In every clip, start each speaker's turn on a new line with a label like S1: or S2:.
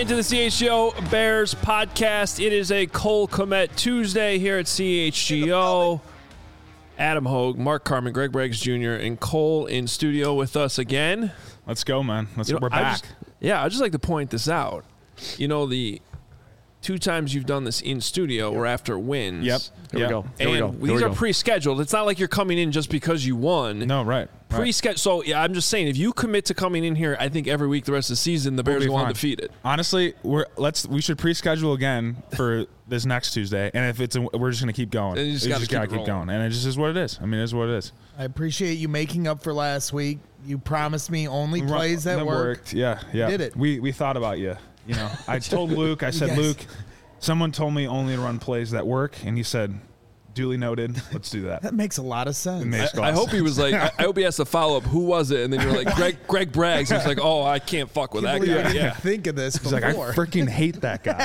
S1: into the CHGO Bears podcast. It is a Cole Kmet Tuesday here at CHGO. Adam Hogue, Mark Carman, Greg Braggs Jr., and Cole in studio with us again.
S2: Let's go, man. We're back.
S1: I'd just like to point this out. You know, the 2 times you've done this in studio were after wins.
S2: Yep.
S3: Here we go.
S1: These are pre-scheduled. It's not like you're coming in just because you won.
S2: No, right.
S1: Pre-scheduled. So, I'm just saying, if you commit to coming in here, I think every week the rest of the season, the Bears go undefeated.
S2: Honestly, we should pre-schedule again for this next Tuesday, and if we're just going to keep going.
S1: You just got to keep
S2: going, and it just is what it is. I mean, it is what it is.
S4: I appreciate you making up for last week. You promised me only plays that worked.
S2: Yeah.
S4: You did it.
S2: We thought about you. You know, I told Luke. I said, Luke, someone told me only to run plays that work, and he said, duly noted. Let's do that.
S4: That makes a lot of sense.
S1: I hope he was like, I hope he asked a follow-up. Who was it? And then you're like, Greg Braggs. He's like, oh, I can't fuck with that guy.
S4: Yeah. Think of this before.
S2: He's like, I freaking hate that guy.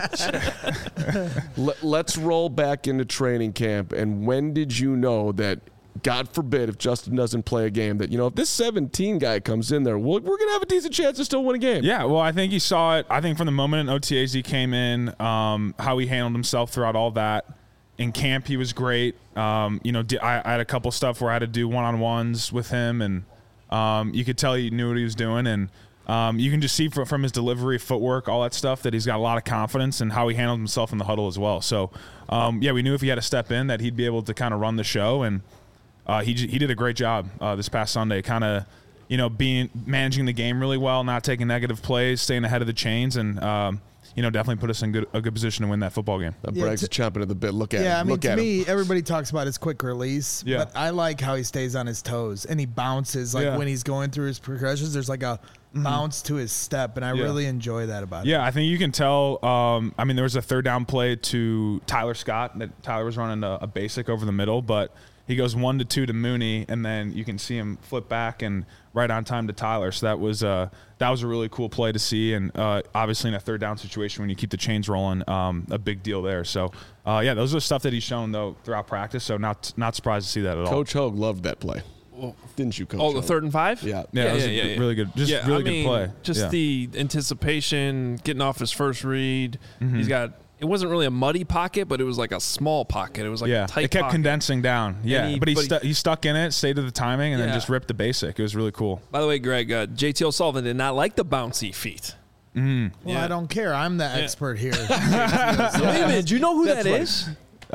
S3: Let's roll back into training camp. And when did you know that, God forbid, if Justin doesn't play a game, that, if this 17 guy comes in there, we're going to have a decent chance to still win a game?
S2: Yeah, well, I think he saw it. I think from the moment in OTAs he came in, how he handled himself throughout all that. In camp, he was great. I had a couple stuff where I had to do one-on-ones with him, and you could tell he knew what he was doing. And you can just see from his delivery, footwork, all that stuff, that he's got a lot of confidence in how he handled himself in the huddle as well. So, we knew if he had to step in that he'd be able to kind of run the show, and he did a great job this past Sunday, kind of managing the game really well, not taking negative plays, staying ahead of the chains, and definitely put us in a good position to win that football game.
S3: Braggs is chomping at the bit. Look at him.
S4: Yeah, I mean, to me, everybody talks about his quick release,
S2: yeah.
S4: but I like how he stays on his toes and he bounces. When he's going through his progressions, there's like a bounce to his step, and I really enjoy that about him.
S2: Yeah, I think you can tell. There was a third down play to Tyler Scott that Tyler was running a basic over the middle, but he goes 1-2 to Mooney, and then you can see him flip back and right on time to Tyler. So that was a really cool play to see, and obviously in a third down situation when you keep the chains rolling, a big deal there. So those are stuff that he's shown though throughout practice. So not surprised to see that at all.
S3: Coach Hogue loved that play, didn't you, Coach?
S1: Oh, the 3rd and 5?
S3: Yeah,
S2: really good, good play.
S1: Just the anticipation, getting off his first read.
S2: Mm-hmm.
S1: He's got. It wasn't really a muddy pocket, but it was like a small pocket. It was like a tight
S2: it kept
S1: pocket.
S2: condensing down. Yeah, but he stuck in it, stayed to the timing, and then just ripped the basic. It was really cool.
S1: By the way, Greg, JT O'Sullivan did not like the bouncy feet.
S4: Well, I don't care. I'm the expert here.
S1: Wait a minute. Do you know who that is?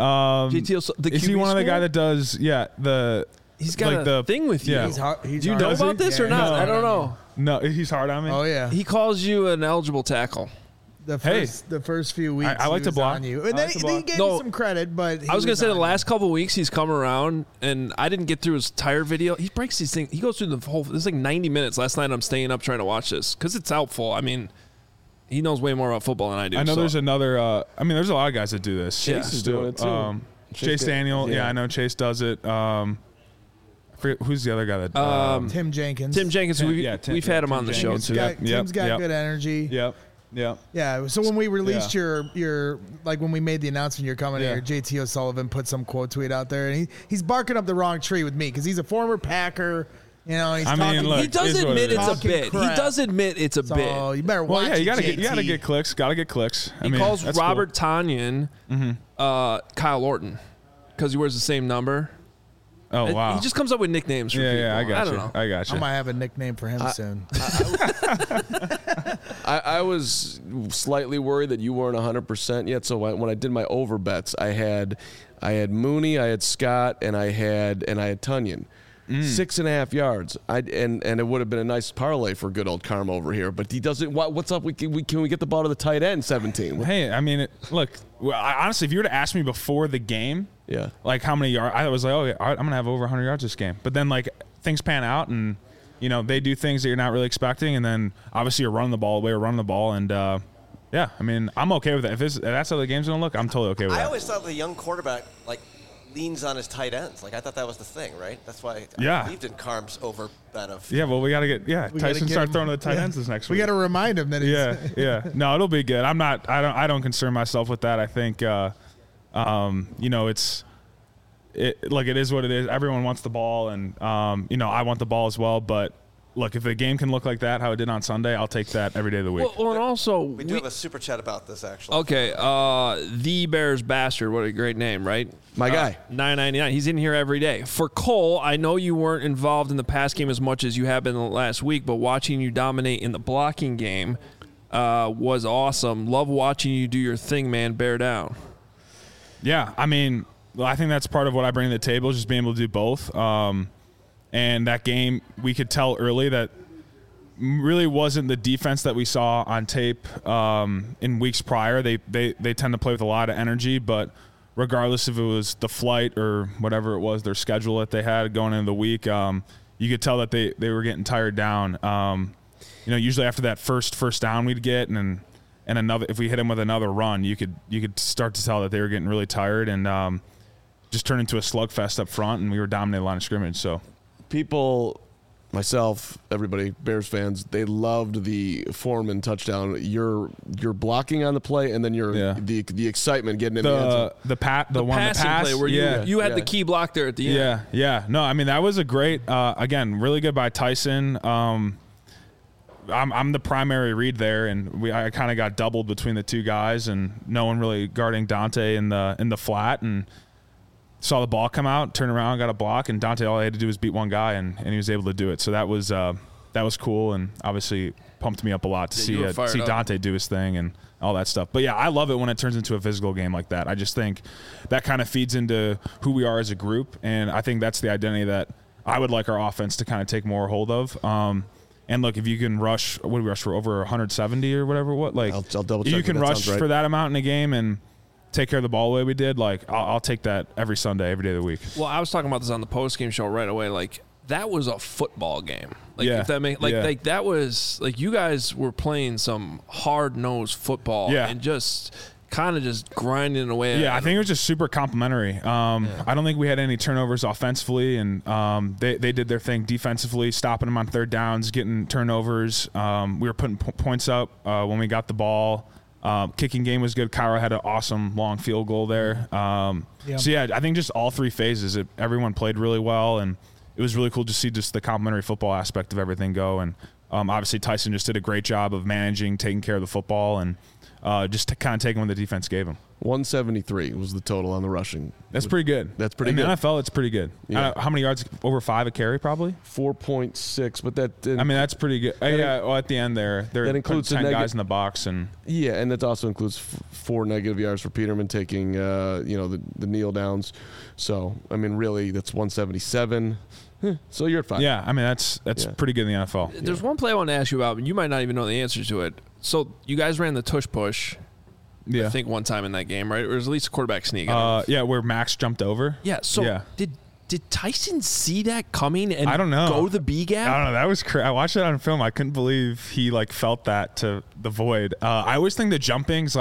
S1: JT O'Sullivan.
S2: Is he one of the guy that does?
S1: He's got a thing with you.
S2: Yeah.
S1: Do you know about this or not?
S2: No.
S1: I don't know.
S2: No, he's hard on me.
S4: Oh yeah.
S1: He calls you an eligible tackle.
S4: The first few weeks,
S2: I like to block.
S4: on you. And then he gave you some credit, but
S1: I was going to say the last couple of weeks he's come around, and I didn't get through his tire video. He breaks these things. He goes through the whole. It's like 90 minutes. Last night I'm staying up trying to watch this because it's helpful. I mean, he knows way more about football than I do.
S2: I know there's another. There's a lot of guys that do this.
S3: Chase is doing it too.
S2: Chase Daniel. Yeah, I know Chase does it. I forget who's the other guy that.
S4: Tim Jenkins.
S1: Tim Jenkins. We've had him on the show too.
S4: Tim's got good energy.
S2: Yep.
S4: Yeah. So when we released your when we made the announcement you're coming here, JT O'Sullivan put some quote tweet out there, and he's barking up the wrong tree with me because he's a former Packer. He's talking.
S1: He does admit it's a bit. He does admit it's a bit.
S4: Oh, you better watch.
S2: Well, you gotta get clicks. Gotta get clicks.
S1: He calls Robert Tonyan Kyle Orton because he wears the same number.
S2: Oh wow!
S1: He just comes up with nicknames for people.
S2: Yeah, I got you. I got you.
S4: I might have a nickname for him soon.
S3: I was slightly worried that you weren't 100% yet. So when I did my over bets, I had Mooney, I had Scott, and I had Tonyan. 6.5 yards. And it would have been a nice parlay for good old Karma over here. But he doesn't. What's up? Can we get the ball to the tight end? 17.
S2: Hey, look. Honestly, if you were to ask me before the game, like how many yards, I was like, oh, I'm gonna have over 100 yards this game. But then things pan out, and they do things that you're not really expecting, and then obviously you're running the ball away or running the ball, and I'm okay with that. If that's how the game's gonna look, I'm totally okay with that.
S5: I always thought the young quarterback leans on his tight ends. I thought that was the thing, right? That's why I believed in Carm's over bet of.
S2: Yeah, well, we got to get Tyson start throwing to the tight ends this next week.
S4: We got to remind him that.
S2: No, it'll be good. I don't concern myself with that. I think it is what it is. Everyone wants the ball, and I want the ball as well. But look, if the game can look like that, how it did on Sunday, I'll take that every day of the week.
S1: Well, and also
S5: we do have a super chat about this actually.
S1: Okay, the Bears Bastard, what a great name, right?
S3: My guy,
S1: $9.99. He's in here every day. For Cole, I know you weren't involved in the pass game as much as you have been the last week, but watching you dominate in the blocking game was awesome. Love watching you do your thing, man. Bear down.
S2: Yeah, I mean, I think that's part of what I bring to the table, just being able to do both. And that game, we could tell early that really wasn't the defense that we saw on tape in weeks prior. They tend to play with a lot of energy, but regardless if it was the flight or whatever it was, their schedule that they had going into the week, you could tell that they were getting tired down. Usually after that first down we'd get, and another, if we hit them with another run, you could start to tell that they were getting really tired, and just turned into a slugfest up front, and we were dominating the line of scrimmage. So
S3: people, myself, everybody, Bears fans, they loved the Foreman touchdown. Your blocking on the play, and then the excitement getting in the end zone.
S2: The passing
S1: play where you had the key block there at the end.
S2: Yeah. No, I mean, that was a great, again, really good by Tyson. I'm the primary read there, and I kind of got doubled between the two guys, and no one really guarding Dante in the flat, and saw the ball come out, turned around, got a block, and Dante, all he had to do was beat one guy, and he was able to do it. So that was cool, and obviously pumped me up a lot to see Dante do his thing and all that stuff. But yeah, I love it when it turns into a physical game like that. I just think that kind of feeds into who we are as a group, and I think that's the identity that I would like our offense to kind of take more hold of. And look, if you can rush, what did we rush for, over 170 or whatever? I'll
S3: double check.
S2: You can rush for that amount in a game and take care of the ball the way we did. Like, I'll take that every Sunday, every day of the week.
S1: Well, I was talking about this on the post-game show right away. Like, that was a football game. Like, if that makes like that was like you guys were playing some hard-nosed football and just kind of just grinding away.
S2: Yeah, I think it was just super complimentary. I don't think we had any turnovers offensively, and they did their thing defensively, stopping them on third downs, getting turnovers. We were putting points up when we got the ball. Kicking game was good. Cairo had an awesome long field goal there. So yeah, I think just all three phases, everyone played really well, and it was really cool to see just the complimentary football aspect of everything go. And obviously Tyson just did a great job of managing, taking care of the football, and just to kind of taking what the defense gave him.
S3: 173 was the total on the rushing.
S2: That's pretty good.
S3: That's pretty good.
S2: In the NFL, it's pretty good.
S3: Yeah.
S2: How many yards? Over 5 a carry, probably?
S3: 4.6, but that...
S2: I mean, that's pretty good. At the end there, that includes 10 guys in the box. And
S3: and that also includes 4 negative yards for Peterman taking, the kneel downs. So, I mean, really, that's 177. So you're at 5.
S2: Yeah, I mean, that's pretty good in the NFL.
S1: There's one play I want to ask you about, and you might not even know the answer to it. So you guys ran the tush push, I think, one time in that game, right? Or was at least a quarterback sneak.
S2: Where Max jumped over.
S1: Yeah, so did Tyson see that coming and
S2: I don't know.
S1: go the B gap?
S2: I don't know. That was crazy. I watched it on film. I couldn't believe he felt that to the void. I always think the jumping's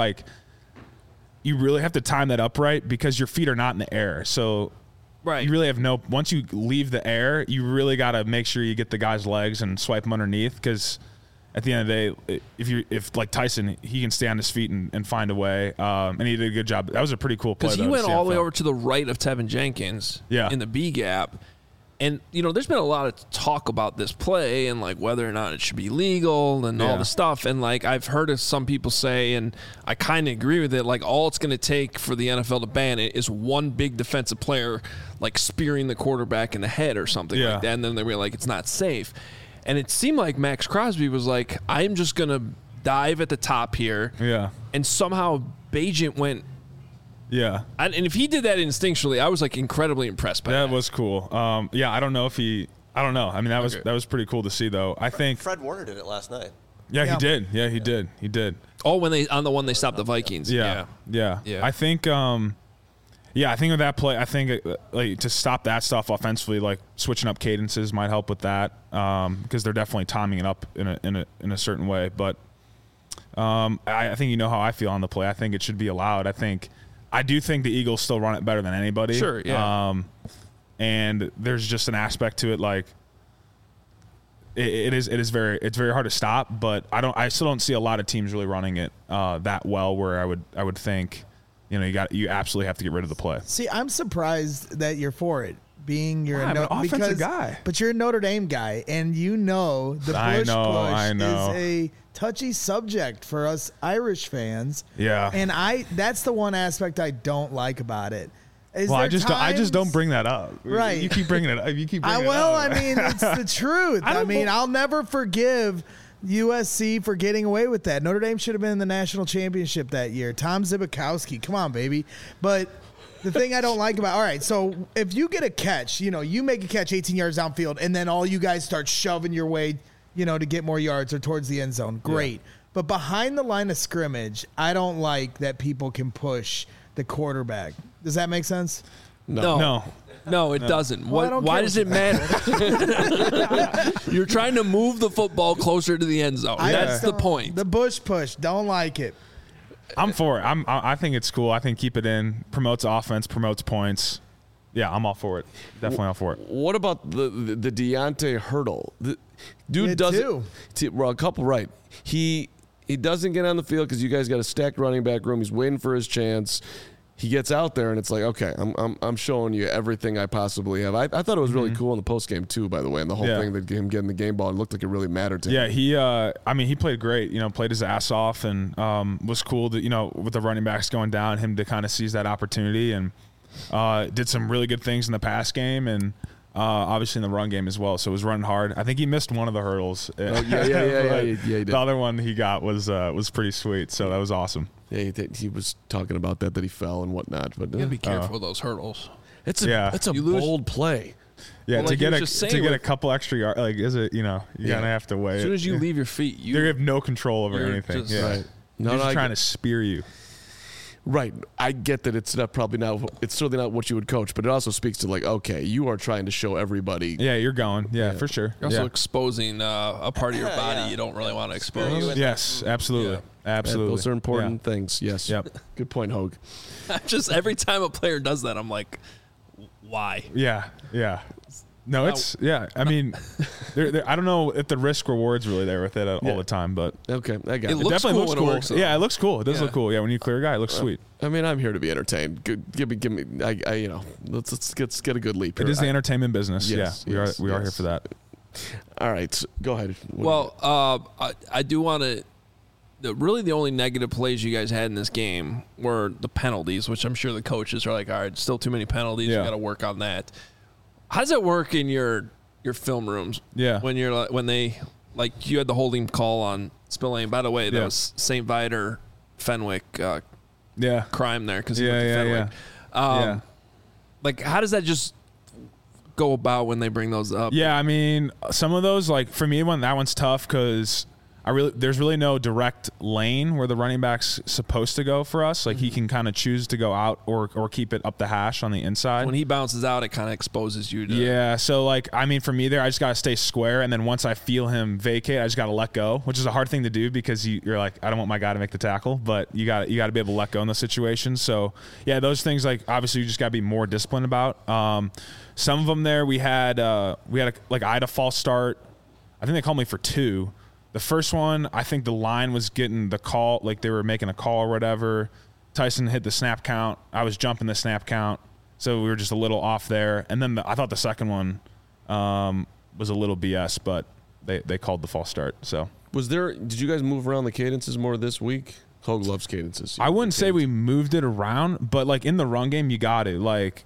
S2: you really have to time that up right because your feet are not in the air. So you really have once you leave the air, you really got to make sure you get the guy's legs and swipe them underneath, because at the end of the day, if like Tyson, he can stay on his feet and find a way, and he did a good job. That was a pretty cool play.
S1: Because he went all the way over to the right of Tevin Jenkins in the B gap. And, there's been a lot of talk about this play and, whether or not it should be legal and all the stuff. And, I've heard some people say, and I kind of agree with it, all it's going to take for the NFL to ban it is one big defensive player, spearing the quarterback in the head or something like that. And then they were it's not safe. And it seemed like Max Crosby was I'm just going to dive at the top here.
S2: Yeah.
S1: And somehow Bagent went.
S2: Yeah.
S1: And if he did that instinctually, I was incredibly impressed by that.
S2: That was cool. I don't know if I don't know. I mean, that was pretty cool to see, though. I think
S5: Fred Warner did it last night.
S2: Yeah, he did. Yeah, he did. He did.
S1: Oh, on the one they stopped the Vikings.
S2: Yeah. I think I think with that play, I think to stop that stuff offensively, switching up cadences might help with that, because they're definitely timing it up in a certain way. But I think how I feel on the play. I think it should be allowed. I do think the Eagles still run it better than anybody.
S1: Sure, yeah.
S2: And there's just an aspect to it, it's very hard to stop. But I still don't see a lot of teams really running it that well. Where I would think, you absolutely have to get rid of the play.
S4: See, I'm surprised that you're for it, being you're
S2: I'm an offensive guy.
S4: But you're a Notre Dame guy, and the Bush push is a touchy subject for us Irish fans.
S2: Yeah.
S4: And that's the one aspect I don't like about it.
S2: I just don't bring that up.
S4: Right.
S2: You keep bringing it up. You keep bringing it up.
S4: Well, I mean, it's the truth. I'll never forgive USC for getting away with that. Notre Dame should have been in the national championship that year. Tom Zibikowski, come on, baby. But the thing I don't like about, all right, so if you get a catch, you make a catch 18 yards downfield, and then all you guys start shoving your way, to get more yards or towards the end zone, great. Yeah. But behind the line of scrimmage, I don't like that people can push the quarterback. Does that make sense?
S1: No, it doesn't. Why does it matter? You're trying to move the football closer to the end zone. That's the point.
S4: The Bush push, don't like it.
S2: I'm for it. I think it's cool. I think keep it in. Promotes offense, promotes points. Yeah, I'm all for it. Definitely all for it.
S3: What about the Deontay hurdle? The dude doesn't. Well, a couple right. He doesn't get on the field because you guys got a stacked running back room. He's waiting for his chance. He gets out there and it's like, okay, I'm showing you everything I possibly have. I thought it was really cool in the post game too, by the way, and the whole thing that him getting the game ball, it looked like it really mattered to him.
S2: Yeah, he played great. Played his ass off and was cool that with the running backs going down, him to kind of seize that opportunity and did some really good things in the pass game and obviously in the run game as well. So it was running hard. I think he missed one of the hurdles.
S3: Yeah, he did.
S2: The other one he got was pretty sweet. So that was awesome.
S3: Yeah, he was talking about that he fell and whatnot. But
S1: you gotta be careful with those hurdles.
S3: It's a bold play.
S2: Yeah, to get a couple extra yards, is it? You're gonna have to wait.
S1: As soon as you leave your feet,
S2: you have no control over anything.
S3: Right.
S2: No, he's trying to spear you.
S3: Right. I get that it's certainly not what you would coach, but it also speaks to okay, you are trying to show everybody.
S2: Yeah, you're going. Yeah, for sure.
S1: You're also exposing a part of your body you don't really want to expose.
S2: Yes, absolutely. Yeah. Absolutely.
S3: Those are important things. Yes.
S2: Yep.
S3: Good point, Hogue.
S1: Just every time a player does that, I'm like, why?
S2: Yeah. Yeah. No, it's I mean, I don't know if the risk reward's really there with it all the time, but
S3: okay, I got it.
S1: It definitely looks cool. It works,
S2: yeah, it looks cool. It does look cool. Yeah, when you clear a guy, it looks sweet.
S3: I mean, I'm here to be entertained. Give me. Let's get a good leap here.
S2: It is the entertainment business. Yes, we are here for that.
S3: All right, go ahead.
S1: Well, I do want to. Really, the only negative plays you guys had in this game were the penalties, which I'm sure the coaches are like, all right, still too many penalties. You got to work on that. How does that work in your film rooms?
S2: Yeah.
S1: When you had the holding call on Spillane. By the way, that was St. Viator Fenwick crime there because he went to Fenwick. How does that just go about when they bring those up?
S2: Yeah, I mean, some of those, for me, that one's tough because there's really no direct lane where the running back's supposed to go for us. He can kind of choose to go out or keep it up the hash on the inside.
S1: When he bounces out, it kind of exposes you to.
S2: Yeah. So for me there, I just got to stay square. And then once I feel him vacate, I just got to let go, which is a hard thing to do because you're like, I don't want my guy to make the tackle, but you got to be able to let go in those situations. So yeah, those things obviously you just got to be more disciplined about. Some of them there we had I had a false start. I think they called me for 2. The first one, I think the line was getting the call, they were making a call or whatever. Tyson hit the snap count. I was jumping the snap count. So we were just a little off there. And then I thought the second one was a little BS, but they called the false start. So
S3: did you guys move around the cadences more this week? Hogue loves cadences.
S2: I wouldn't say we moved it around, but in the run game, you got it.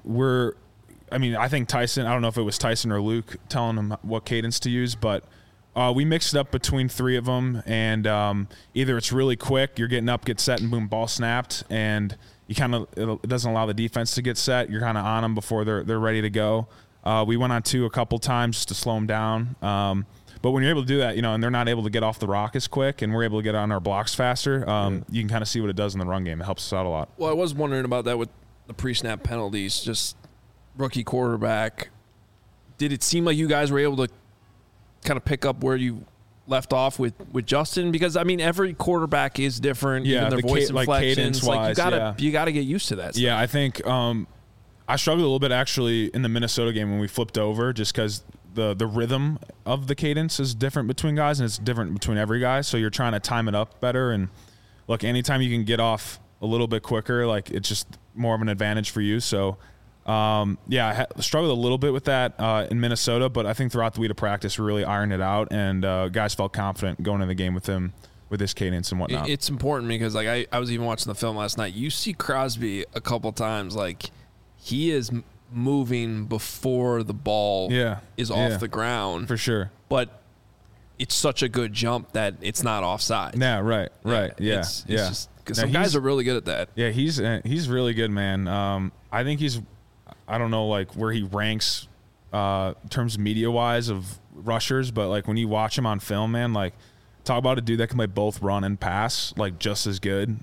S2: I think Tyson, I don't know if it was Tyson or Luke telling him what cadence to use, but we mixed it up between 3 of them, and either it's really quick, you're getting up, get set, and boom, ball snapped, and you it doesn't allow the defense to get set. You're kind of on them before they're ready to go. We went on 2 a couple times just to slow them down. But when you're able to do that, and they're not able to get off the rock as quick, and we're able to get on our blocks faster, you can kind of see what it does in the run game. It helps us out a lot.
S1: Well, I was wondering about that with the pre-snap penalties, just rookie quarterback. Did it seem like you guys were able to kind of pick up where you left off with Justin? Because every quarterback is different.
S2: Yeah,
S1: even their voice inflections. You gotta get used to that stuff.
S2: Yeah, I think I struggled a little bit actually in the Minnesota game when we flipped over, just because the rhythm of the cadence is different between guys, and it's different between every guy. So you're trying to time it up better. And look, anytime you can get off a little bit quicker, it's just more of an advantage for you. So I struggled a little bit with that in Minnesota, but I think throughout the week of practice, we really ironed it out, and guys felt confident going into the game with him, with his cadence and whatnot.
S1: It's important because, like, I was even watching the film last night. You see Crosby a couple times, like, he is moving before the ball is off the ground.
S2: For sure.
S1: But it's such a good jump that it's not offside.
S2: Yeah, right.
S1: It's just, because some guys are really good at that.
S2: Yeah, he's really good, man. I think I don't know, like, where he ranks in terms of media-wise of rushers, but, like, when you watch him on film, man, like, talk about a dude that can play both run and pass, like, just as good.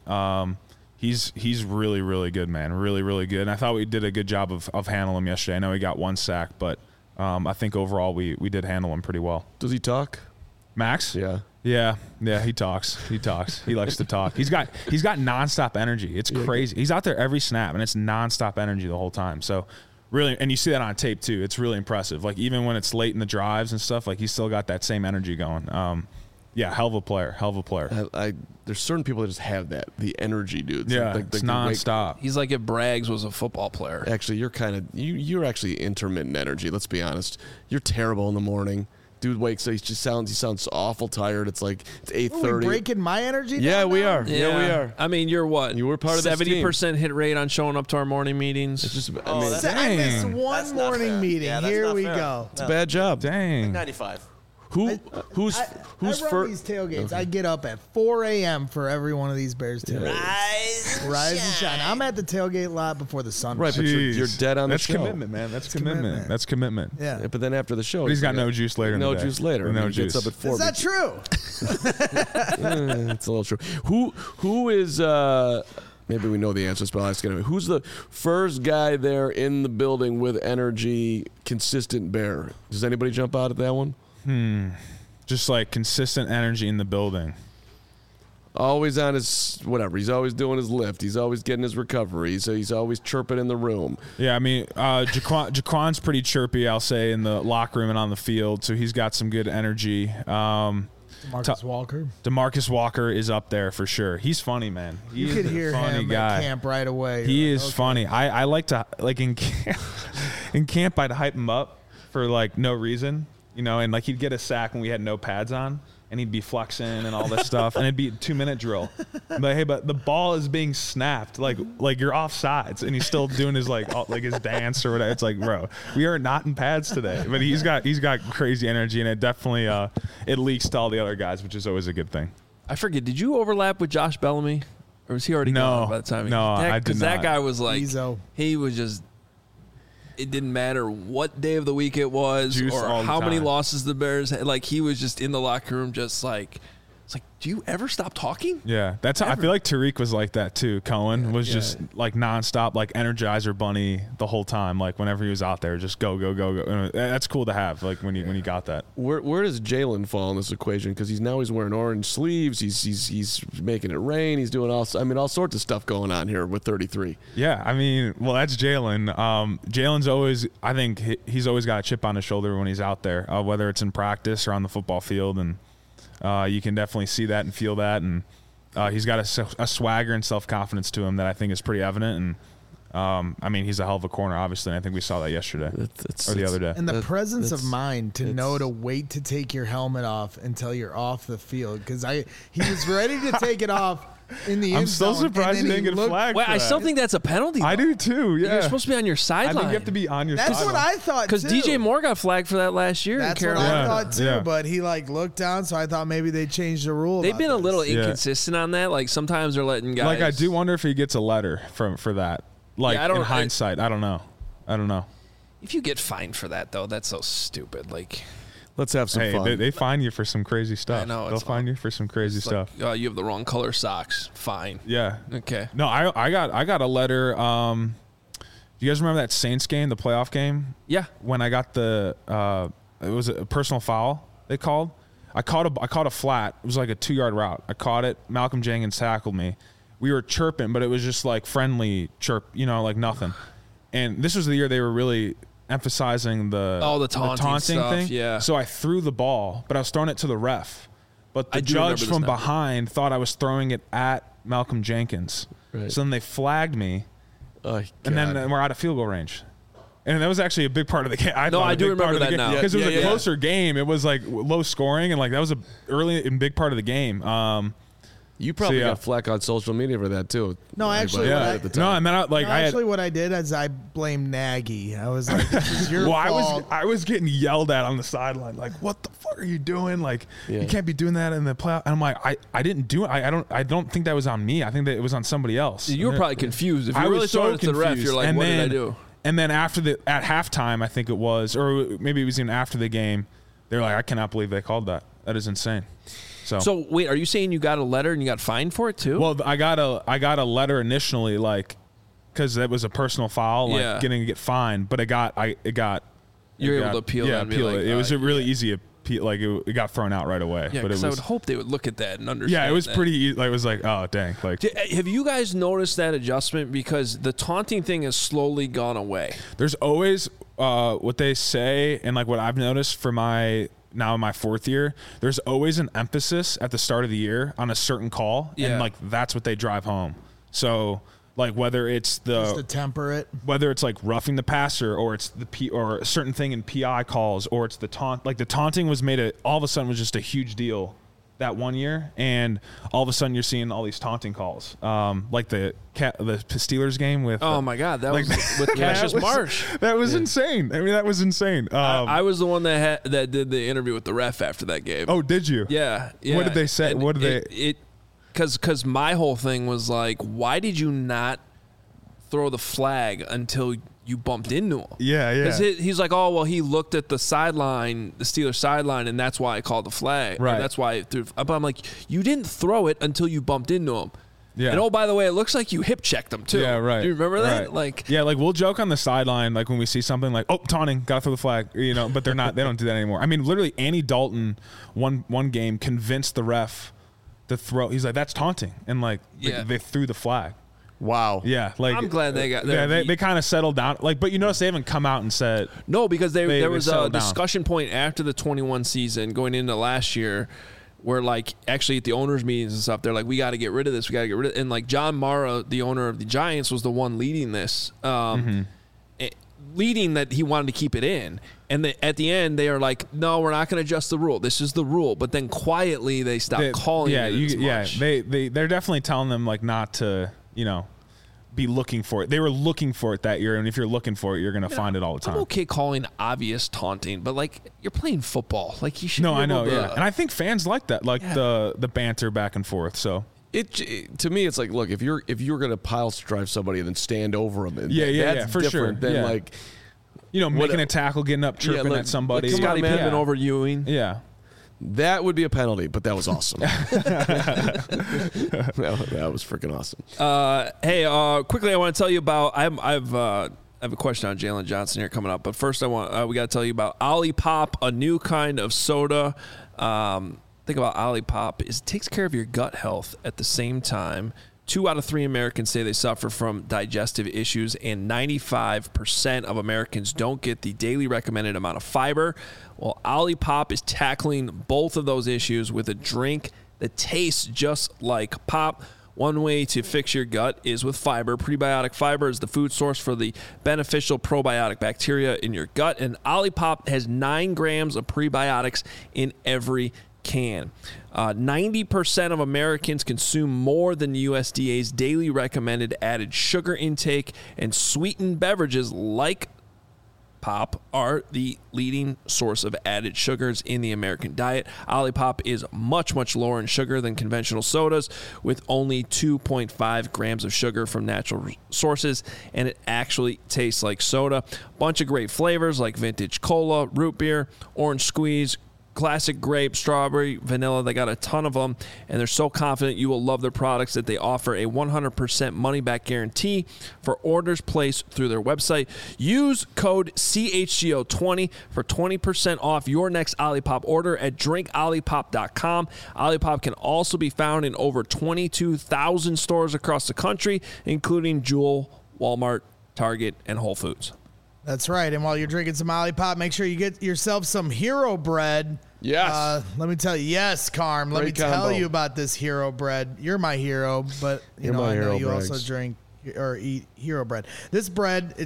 S2: He's really, really good, man. Really, really good. And I thought we did a good job of handling him yesterday. I know he got 1 sack, but I think overall we did handle him pretty well.
S3: Does he talk?
S2: Max?
S3: Yeah.
S2: Yeah, he talks. He likes to talk. He's got nonstop energy. It's crazy. He's out there every snap, and it's nonstop energy the whole time. So really, and you see that on tape too. It's really impressive. Like, even when it's late in the drives and stuff, like, he's still got that same energy going. Hell of a player.
S3: There's certain people that just have that, the energy, dude.
S2: Yeah, it's nonstop.
S1: He's like if Braggs was a football player.
S3: Actually, you're actually intermittent energy. Let's be honest. You're terrible in the morning. Dude wakes up. He sounds awful tired. It's like it's 8:30.
S4: Are we breaking my energy?
S3: Yeah, we are.
S1: Yeah,
S3: we are.
S1: I mean, you're what?
S3: You were part of this team.
S1: 70% hit rate on showing up to our morning meetings.
S3: It's just.
S4: I missed one morning meeting.
S5: Yeah,
S4: Here we
S5: fair.
S4: go.
S3: It's a bad job.
S2: Dang.
S5: 95.
S3: Who's
S4: I run
S3: first?
S4: these tailgates. Okay. I get up at 4 a.m. for every one of these Bears tailgates. Rise and shine. I'm at the tailgate lot before the sun.
S3: Right, but you're dead on the show.
S2: That's commitment, man. That's commitment. That's commitment.
S4: Yeah.
S3: But then after the show,
S2: he's got no juice later.
S3: No juice later.
S2: No
S3: juice. Gets up at 4.
S4: Is that true?
S3: It's a little true. Who is? Maybe we know the answers, but I'll ask anyway. Who's the first guy there in the building with energy, consistent Bear? Does anybody jump out at that one?
S2: Just like consistent energy in the building.
S3: Always on his whatever. He's always doing his lift. He's always getting his recovery. So he's always chirping in the room.
S2: Yeah, I mean, Jaquan's pretty chirpy, I'll say, in the locker room and on the field. So he's got some good energy.
S4: DeMarcus Walker.
S2: DeMarcus Walker is up there for sure. He's funny, man.
S4: You could hear him at camp right away.
S2: He is funny. I like to, like, in camp, I'd hype him up for, like, no reason. You know, and, like, he'd get a sack when we had no pads on, and he'd be flexing and all this stuff, and it'd be a 2-minute drill. But hey, but the ball is being snapped, like you're offsides, and he's still doing his like his dance or whatever. It's like, bro, we are not in pads today. But he's got crazy energy, and it definitely it leaks to all the other guys, which is always a good thing.
S1: I forget. Did you overlap with Josh Bellamy, or was he already gone by the time?
S2: I did not.
S1: Because that guy was like,
S4: Ezo.
S1: He was just. It didn't matter what day of the week it was
S2: Juice
S1: or
S2: all the
S1: how many
S2: time.
S1: losses the Bears had. Like, he was just in the locker room just like, it's like, do you ever stop talking?
S2: Yeah, that's how I feel like Tariq was like that too. Cohen was just like nonstop, like Energizer Bunny the whole time. Like, whenever he was out there, just go. That's cool to have. Like when you got that.
S3: Where does Jalen fall in this equation? Because he's wearing orange sleeves. He's making it rain. He's doing all sorts of stuff going on here with 33.
S2: Yeah, I mean, well, that's Jalen. Jalen's always, I think he's always got a chip on his shoulder when he's out there, whether it's in practice or on the football field, and you can definitely see that and feel that. And he's got a swagger and self-confidence to him that I think is pretty evident. And I mean, he's a hell of a corner, obviously, and I think we saw that yesterday or the other day.
S4: And the presence of mind to know to wait to take your helmet off until you're off the field, because he was ready to take it off in the
S2: I'm
S4: end
S2: so
S4: zone,
S2: surprised he didn't get flagged.
S1: Well,
S2: for
S1: I
S2: that.
S1: still think that's a penalty.
S2: I
S1: though.
S2: do too. Yeah,
S1: You're supposed to be on your sideline.
S2: I think you have to be on your
S4: That's
S2: sideline.
S4: what I thought,
S1: Because
S4: too.
S1: DJ Moore got flagged for that last year.
S4: That's
S1: in
S4: what
S1: Carolina.
S4: I thought, too.
S2: Yeah.
S4: But he, like, looked down, so I thought maybe they changed the rule.
S1: They've been a little
S2: Yeah.
S1: inconsistent on that. Like, sometimes they're letting guys.
S2: Like, I do wonder if he gets a letter for that. Like,
S1: Yeah, I don't-
S2: in hindsight, I don't know.
S1: If you get fined for that, though, that's so stupid. Like,
S3: Let's have some fun.
S2: They fine you for some crazy stuff.
S1: I know,
S2: They'll
S1: it's
S2: fine you for some crazy
S1: it's
S2: stuff.
S1: like, you have the wrong color socks. Fine.
S2: Yeah.
S1: Okay.
S2: No, I got a letter. Do you guys remember that Saints game, the playoff game?
S1: Yeah.
S2: When I got it was a personal foul they called. I caught a flat. It was like a 2-yard route. I caught it. Malcolm Jenkins tackled me. We were chirping, but it was just like friendly chirp, like nothing. And this was the year they were really emphasizing the taunting
S1: stuff,
S2: thing.
S1: yeah.
S2: So I threw the ball, but I was throwing it to the ref. But
S1: I
S2: the
S1: do remember
S2: judge
S1: this
S2: from
S1: now.
S2: behind thought I was throwing it at Malcolm Jenkins.
S3: Right.
S2: So then they flagged me,
S3: Oh,
S2: and then
S3: God.
S2: we're out of field goal range. And that was actually a big part of the game.
S1: I do remember that now.
S2: Because it was a closer game. It was like low scoring, and like that was a early and big part of the game.
S3: You probably got flack on social media for that too.
S4: No, actually, what I did is I blamed Nagy. I was like, "This is your fault."
S2: I was getting yelled at on the sideline, like, "What the fuck are you doing? Like, you can't be doing that in the playoff." And I'm like, "I didn't do it. I don't think that was on me. I think that it was on somebody else."
S1: You were probably confused. If you really throwing it to the ref, you're like, "What did I do?"
S2: And then at halftime, I think it was, or maybe it was even after the game, they're like, "I cannot believe they called that. That is insane."
S1: So wait, are you saying you got a letter and you got fined for it too?
S2: Well, I got a letter initially, like, because that was a personal foul, like getting fined. But it got
S1: you're able to appeal.
S2: Yeah, appeal it. It was a really easy appeal. Like it got thrown out right away.
S1: Yeah, because I would hope they would look at that and understand.
S2: Yeah, it was pretty easy. Like, it was like, oh dang. Like,
S1: have you guys noticed that adjustment? Because the taunting thing has slowly gone away.
S2: There's always what they say, and like what I've noticed for now in my fourth year, there's always an emphasis at the start of the year on a certain call, and like that's what they drive home. So like whether it's
S4: just to temper it,
S2: whether it's like roughing the passer, or it's or a certain thing in PI calls, or it's the taunt. Like the taunting was all of a sudden was just a huge deal that one year, and all of a sudden you're seeing all these taunting calls, like the Steelers game with.
S1: Oh my God, that was with Cassius Marsh.
S2: That was insane. I mean, that was insane.
S1: I was the one that did the interview with the ref after that game.
S2: Oh, did you?
S1: Yeah.
S2: What did they say? What did they?
S1: Because my whole thing was like, why did you not throw the flag until you bumped into him?
S2: Yeah.
S1: Because he's like, oh, well, he looked at the sideline, the Steelers sideline, and that's why I called the flag.
S2: Right.
S1: And that's why I threw. But I'm like, you didn't throw it until you bumped into him.
S2: Yeah.
S1: And oh, by the way, it looks like you hip checked him too.
S2: Yeah, right.
S1: Do you remember that?
S2: Right.
S1: Like,
S2: yeah, like we'll joke on the sideline, like when we see something like, oh, taunting, gotta throw the flag, but they're not. They don't do that anymore. I mean, literally, Andy Dalton, one game convinced the ref to throw. He's like, that's taunting, and like they threw the flag.
S3: Wow.
S2: Yeah, like
S1: I'm glad they got.
S2: Yeah, they kind of settled down. Like, but you notice they haven't come out and said
S1: no, because there was a discussion point after the 21 season going into last year, where like actually at the owners' meetings and stuff, they're like, we got to get rid of this. We got to get rid of it. And like John Mara, the owner of the Giants, was the one leading this, leading that he wanted to keep it in. And at the end, they are like, no, we're not going to adjust the rule. This is the rule. But then quietly they stopped calling it as much.
S2: They're definitely telling them like not to, be looking for it. They were looking for it that year, and if you're looking for it, you're going to find it all the time.
S1: I'm okay calling obvious taunting, but like you're playing football, like you should.
S2: No, I know, and I think fans like that, like the banter back and forth. So
S3: it to me, it's like, look, if you're going to pile drive somebody and then stand over them, and
S2: that's
S3: for
S2: sure.
S3: Than like
S2: making a tackle, getting up, chirping at somebody,
S1: like Scottie Pippen over Ewing.
S2: Yeah. That
S3: would be a penalty, but that was awesome. That was freaking awesome.
S1: Hey, quickly, I want to tell you about. I have a question on Jalen Johnson here coming up, but first, we got to tell you about Olipop, a new kind of soda. Think about Olipop is it takes care of your gut health at the same time. 2 out of 3 Americans say they suffer from digestive issues, and 95% of Americans don't get the daily recommended amount of fiber. Well, Olipop is tackling both of those issues with a drink that tastes just like pop. One way to fix your gut is with fiber. Prebiotic fiber is the food source for the beneficial probiotic bacteria in your gut, and Olipop has 9 grams of prebiotics in every can. 90% of Americans consume more than the USDA's daily recommended added sugar intake, and sweetened beverages like pop are the leading source of added sugars in the American diet. Olipop is much, much lower in sugar than conventional sodas, with only 2.5 grams of sugar from natural sources, and it actually tastes like soda. Bunch of great flavors like vintage cola, root beer, orange squeeze, classic grape, strawberry, vanilla. They got a ton of them, and they're so confident you will love their products that they offer a 100% money-back guarantee for orders placed through their website. Use code CHGO20 for 20% off your next Olipop order at drinkolipop.com. Olipop can also be found in over 22,000 stores across the country, including Jewel, Walmart, Target, and Whole Foods.
S4: That's right. And while you're drinking some Olipop, make sure you get yourself some Hero Bread.
S3: Yes.
S4: Let me tell you. Yes, Carm. Let me tell you about this Hero Bread. You're my hero, but I know you also drink or eat Hero Bread. This bread, it's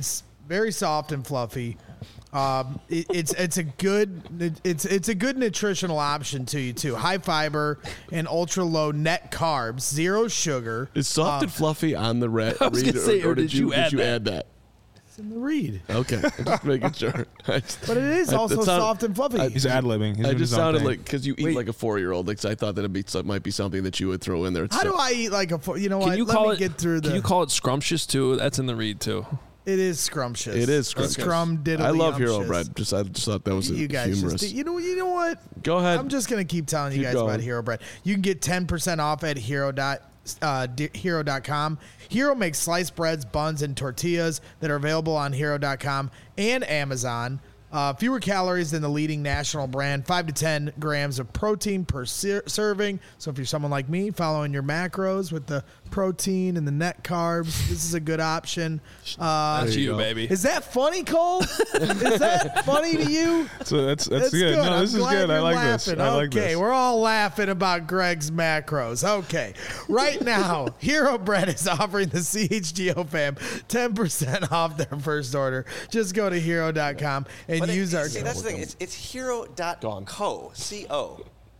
S4: very soft and fluffy. It's a good nutritional option to you too. High fiber and ultra low net carbs, zero sugar.
S3: Is soft and fluffy on the read,
S1: I was gonna say,
S3: or did you add that?
S4: It's in the read.
S3: Okay, I'm just making sure.
S4: But it is also soft and fluffy.
S2: He's ad-libbing.
S3: I just sounded like, because you eat like a 4-year-old. Like, so I thought that it might be something that you would throw in there.
S4: How do I eat like a? You know what?
S1: Can you
S4: Let
S1: call
S4: me
S1: it?
S4: get through the.
S1: Can you call it scrumptious too? That's in the read too.
S4: It is scrumptious.
S3: It is scrumptious.
S4: Scrum diddly.
S3: I love Hero Bread. I just thought that was
S4: you guys
S3: humorous.
S4: you know what?
S3: Go ahead.
S4: I'm just gonna keep telling you guys about Hero Bread. You can get 10% off at hero.com. Hero makes sliced breads, buns, and tortillas that are available on hero.com and Amazon. Fewer calories than the leading national brand, 5 to 10 grams of protein per serving. So if you're someone like me, following your macros with the protein and the net carbs, this is a good option.
S1: That's you, baby.
S4: Is that funny, Cole? Is that funny to you?
S2: So that's good. No, this is good. I like this. I like this.
S4: Okay, we're all laughing about Greg's macros. Okay, right now, Hero Bread is offering the CHGO fam 10% off their first order. Just go to hero.com and use our.
S5: See, that's the thing. It's hero.co. C-O.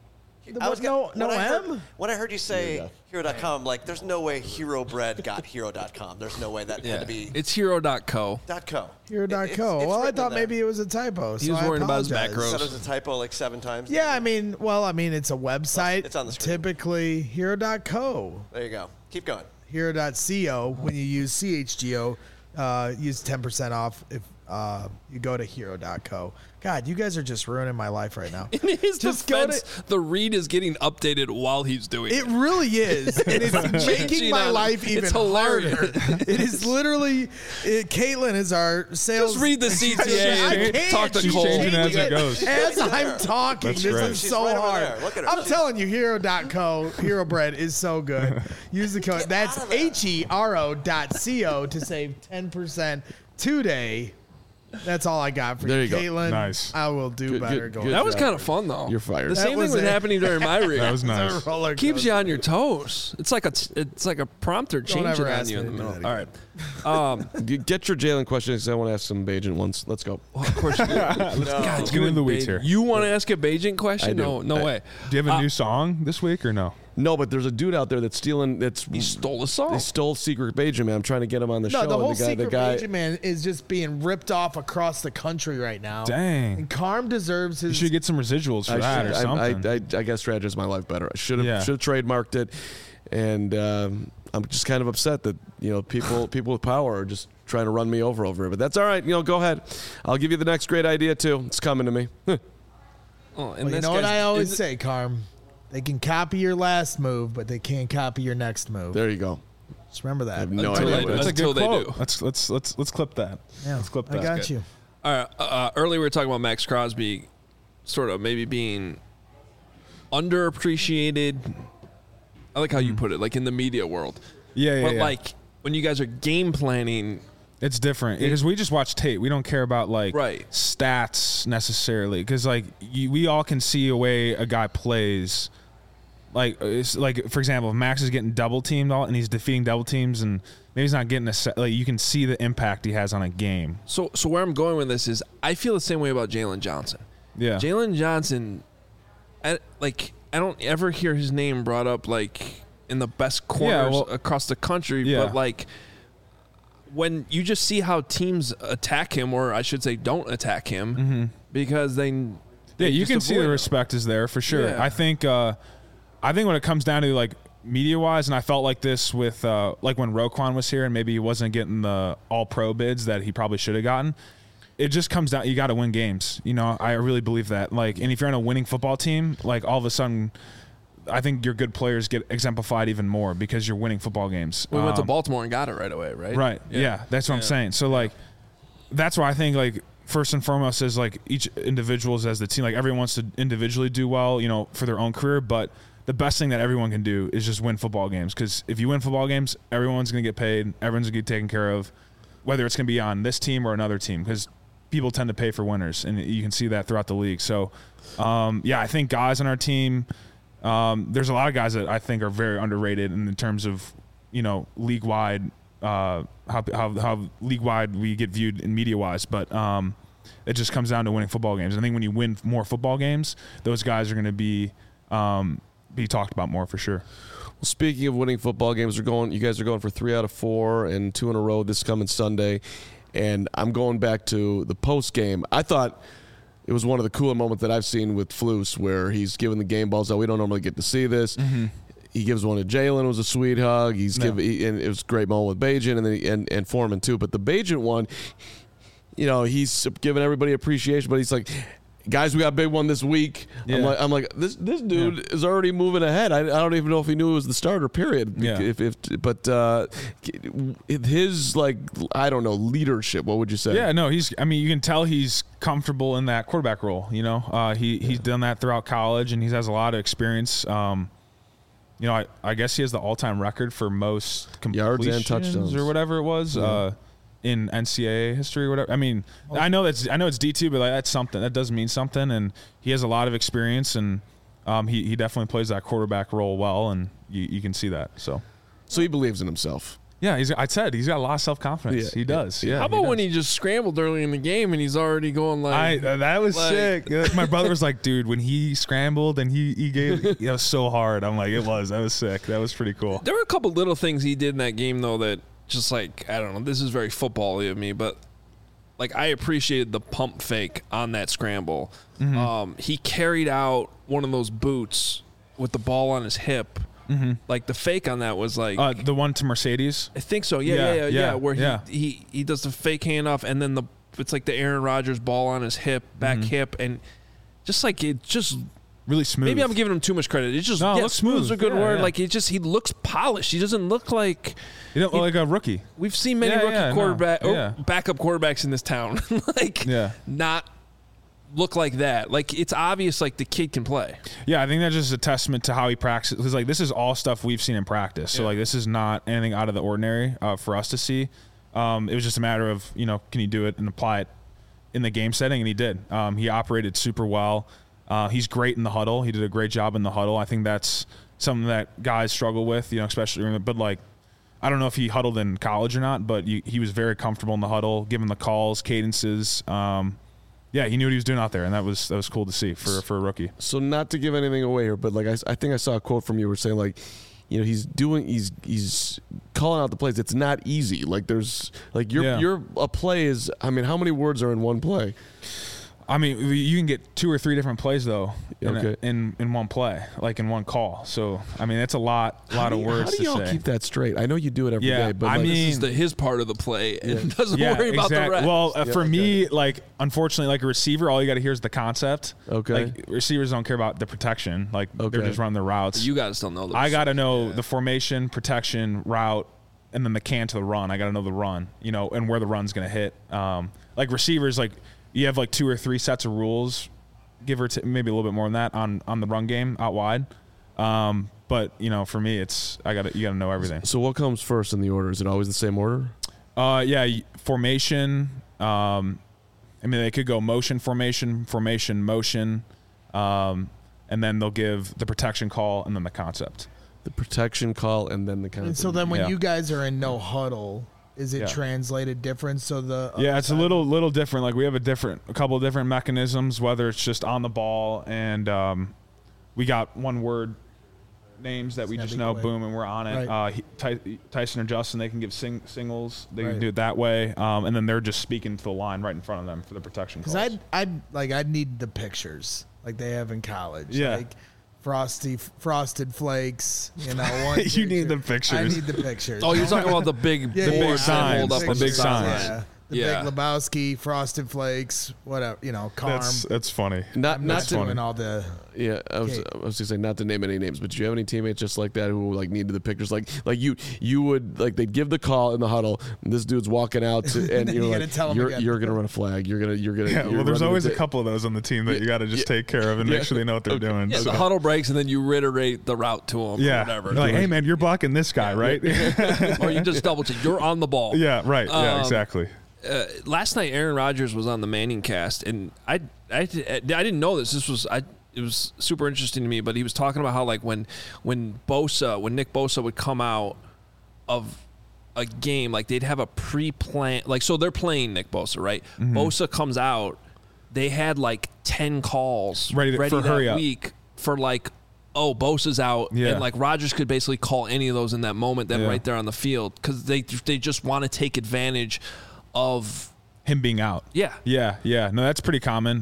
S5: When I heard you say hero.com, like, there's no way Hero Bread got hero.com. There's no way that had to be.
S1: It's hero.co.
S4: Hero.co. Well, I thought maybe it was a typo.
S1: He was worried about his macros.
S5: You said it was a typo like 7 times?
S4: Yeah, I mean, it's a website.
S5: It's on the screen.
S4: Typically, hero.co.
S5: There you go. Keep going.
S4: Hero.co. When you use CHGO, use 10% off if you go to hero.co. God, you guys are just ruining my life right now.
S1: In his defense, the read is getting updated while he's doing it.
S4: It really is. And it's making my life even harder. It is literally, Caitlin is our sales.
S1: Just read the CTA and talk to Cole.
S2: Changing as it goes.
S4: As I'm talking,
S2: That's
S4: this
S2: great.
S4: is
S5: She's
S4: so
S5: right over
S4: hard.
S5: there. Look at her.
S4: I'm telling you, hero.co, Hero Bread is so good. Use the code. That's hero.co to save 10% today. That's all I got for
S3: There you go.
S4: Caitlin.
S2: Nice.
S4: I will do better going.
S1: That was kind of fun, though.
S3: You're fired.
S1: The same
S4: was
S1: thing was
S4: it.
S1: happening during my read.
S2: That was nice.
S1: Keeps you on your toes. It's like a prompter changing
S4: ever
S1: on
S4: ask
S1: you
S4: me
S1: in the
S4: to do
S1: middle.
S4: that
S1: All right.
S3: Get your Jalen question because I want to ask some Bajan ones. Let's go.
S1: Well, of course. You do.
S2: Let's get into the weeds here.
S1: You want to ask a Beijing question?
S3: I do.
S1: No way.
S2: Do you have a new song this week or no?
S3: No, but there's a dude out there that's stealing.
S1: He stole a song.
S3: He stole Secret Bajan Man. I'm trying to get him on the show.
S4: No, the whole
S3: and
S4: Secret Bajan Man is just being ripped off across the country right now.
S2: Dang.
S4: And Carm deserves his.
S2: You should get some residuals for that or something.
S3: I guess strategize my life better. I should have trademarked it, and I'm just kind of upset that people with power are just trying to run me over it. But that's all right. Go ahead. I'll give you the next great idea too. It's coming to me.
S4: And you know what I always say, Carm? They can copy your last move, but they can't copy your next move.
S3: There you go.
S4: Just remember that.
S3: I have no idea.
S2: That's a
S1: Until
S2: good
S1: they
S2: quote.
S1: do.
S2: Let's clip that.
S4: Yeah,
S2: Let's clip that.
S4: I got you.
S1: All right. Earlier we were talking about Max Crosby, sort of maybe being underappreciated. I like how you put it, like in the media world.
S2: Yeah.
S1: But like when you guys are game planning.
S2: It's different because we just watch tape. We don't care about stats necessarily because we all can see a way a guy plays. It's like, for example, if Max is getting double teamed and he's defeating double teams and maybe he's not getting you can see the impact he has on a game.
S1: So where I'm going with this is I feel the same way about Jalen Johnson.
S2: Yeah.
S1: Jalen Johnson, I don't ever hear his name brought up in the best corners across the country, but when you just see how teams attack him, or I should say don't attack him, because they
S2: you can see the respect is there for sure. Yeah. I think when it comes down to media wise, and I felt like this with when Roquan was here and maybe he wasn't getting the all pro bids that he probably should have gotten. It just comes down, you got to win games. I really believe that. And if you're on a winning football team, all of a sudden, I think your good players get exemplified even more because you're winning football games.
S1: We went to Baltimore and got it right away, right?
S2: Right. Yeah. That's what I'm saying. So that's why I think first and foremost is each individual as the team. Everyone wants to individually do well, for their own career, but the best thing that everyone can do is just win football games. Because if you win football games, everyone's going to get paid. Everyone's going to get taken care of, whether it's going to be on this team or another team. Because people tend to pay for winners, and you can see that throughout the league. So, I think guys on our team. There's a lot of guys that I think are very underrated in terms of, league-wide how league wide we get viewed in media wise, but it just comes down to winning football games. I think when you win more football games, those guys are going to be talked about more for sure.
S3: Well, speaking of winning football games, you guys are going for 3 out of 4 and 2 in a row this coming Sunday. And I'm going back to the post game. I thought it was one of the cooler moments that I've seen with Flus, where he's giving the game balls out. We don't normally get to see this. Mm-hmm. He gives one to Jalen. It was a sweet hug. And it was a great moment with Bagent and Foreman too. But the Bagent one, he's giving everybody appreciation. But he's like, guys, we got a big one this week. Yeah. I'm like, this dude is already moving ahead. I don't even know if he knew it was the starter. Period.
S2: Yeah.
S3: But his I don't know, leadership. What would you say?
S2: Yeah, no, you can tell he's comfortable in that quarterback role. He's done that throughout college, and he has a lot of experience. I guess he has the all-time record for most completions
S3: yards and touchdowns
S2: or whatever it was. Yeah. In NCAA history or whatever. I mean, I know it's D2, but that's something. That does mean something, and he has a lot of experience, and he definitely plays that quarterback role well, and you can see that. So
S3: he believes in himself.
S2: Yeah, he's got a lot of self-confidence. He does. Yeah.
S1: How about when he just scrambled early in the game and he's already going
S2: that was sick. My brother was like, dude, when he scrambled and he gave, it was so hard. I'm like, that was sick. That was pretty cool.
S1: There were a couple little things he did in that game, though, that just I don't know, this is very football-y of me, but I appreciated the pump fake on that scramble. Mm-hmm. He carried out one of those boots with the ball on his hip. Mm-hmm. The fake on that was
S2: the one to Mercedes.
S1: I think so. Yeah. Where he does the fake handoff, and then it's like the Aaron Rodgers ball on his hip, back hip, and just it just
S2: really smooth.
S1: Maybe I'm giving him too much credit. It's just looks smooth is a good word. Yeah. He looks polished. He doesn't look like
S2: like a rookie.
S1: We've seen many backup quarterbacks in this town not look like that. It's obvious the kid can play.
S2: Yeah, I think that's just a testament to how he practices. Because this is all stuff we've seen in practice. So this is not anything out of the ordinary for us to see. It was just a matter of can he do it and apply it in the game setting, and he did. He operated super well. He's great in the huddle. He did a great job in the huddle. I think that's something that guys struggle with, especially. But I don't know if he huddled in college or not, but he was very comfortable in the huddle, giving the calls, cadences. He knew what he was doing out there, and that was cool to see for a rookie.
S3: So not to give anything away here, but I think I saw a quote from you where saying he's calling out the plays. It's not easy. Your a play is. I mean, how many words are in one play?
S2: I mean, you can get 2 or 3 different plays though in one play, in one call. So I mean, that's a lot of words to say.
S3: How do y'all keep that straight? I know you do it every day, but
S1: this is his part of the play and doesn't worry about the rest.
S2: Well, for me, unfortunately, a receiver, all you got to hear is the concept.
S3: Okay.
S2: Receivers don't care about the protection. They're just running their routes.
S1: You guys don't know.
S2: I got to know the formation, protection, route, and then the can to the run. I got to know the run, and where the run's going to hit. Receivers, you have 2 or 3 sets of rules, give or maybe a little bit more than that on the run game out wide. But for me, it's you gotta know everything.
S3: So what comes first in the order? Is it always the same order?
S2: Formation. They could go motion, formation, motion, and then they'll give the protection call and then the concept.
S3: The protection call and then the concept.
S4: And so then when you guys are in no huddle, is it translated different? So
S2: it's a little different. We have a couple of different mechanisms, whether it's just on the ball and we got one word names that we just know, boom, and we're on it. Right. Tyson or Justin, they can give singles. They can do it that way, and then they're just speaking to the line right in front of them for the protection calls.
S4: Because I'd need the pictures like they have in college.
S2: Yeah.
S4: Frosted Flakes,
S2: you need the pictures.
S4: I need the pictures.
S1: Oh, you're talking about the big board
S2: signs.
S1: Hold up
S2: the big signs.
S4: Yeah. The Big Lebowski, Frosted Flakes, whatever, Carm.
S2: That's funny.
S3: Not
S4: doing all the.
S3: Yeah, I was going to say not to name any names, but do you have any teammates just like that who needed the pictures? You would they'd give the call in the huddle. And this dude's walking out and you're you're gonna run a flag. You're gonna.
S2: Yeah, well, there's always a couple of those on the team that you got to just take care of and make sure they know what they're doing.
S1: Yeah, so. The huddle breaks and then you reiterate the route to them.
S2: Yeah,
S1: or whatever.
S2: You're hey man, you're blocking this guy, right?
S1: Or you just double check. You're on the ball.
S2: Yeah, right. Yeah, exactly.
S1: Last night, Aaron Rodgers was on the Manning cast, and I didn't know this. It was super interesting to me. But he was talking about how when Nick Bosa would come out of a game, like they'd have a pre-plan, like, so they're playing Nick Bosa, right? Bosa comes out, they had like 10 calls ready
S2: for
S1: that week for like, oh, Bosa's out, and like Rodgers could basically call any of those in that moment, then right there on the field, because they just want to take advantage of
S2: him being out.
S1: Yeah.
S2: No, that's pretty common.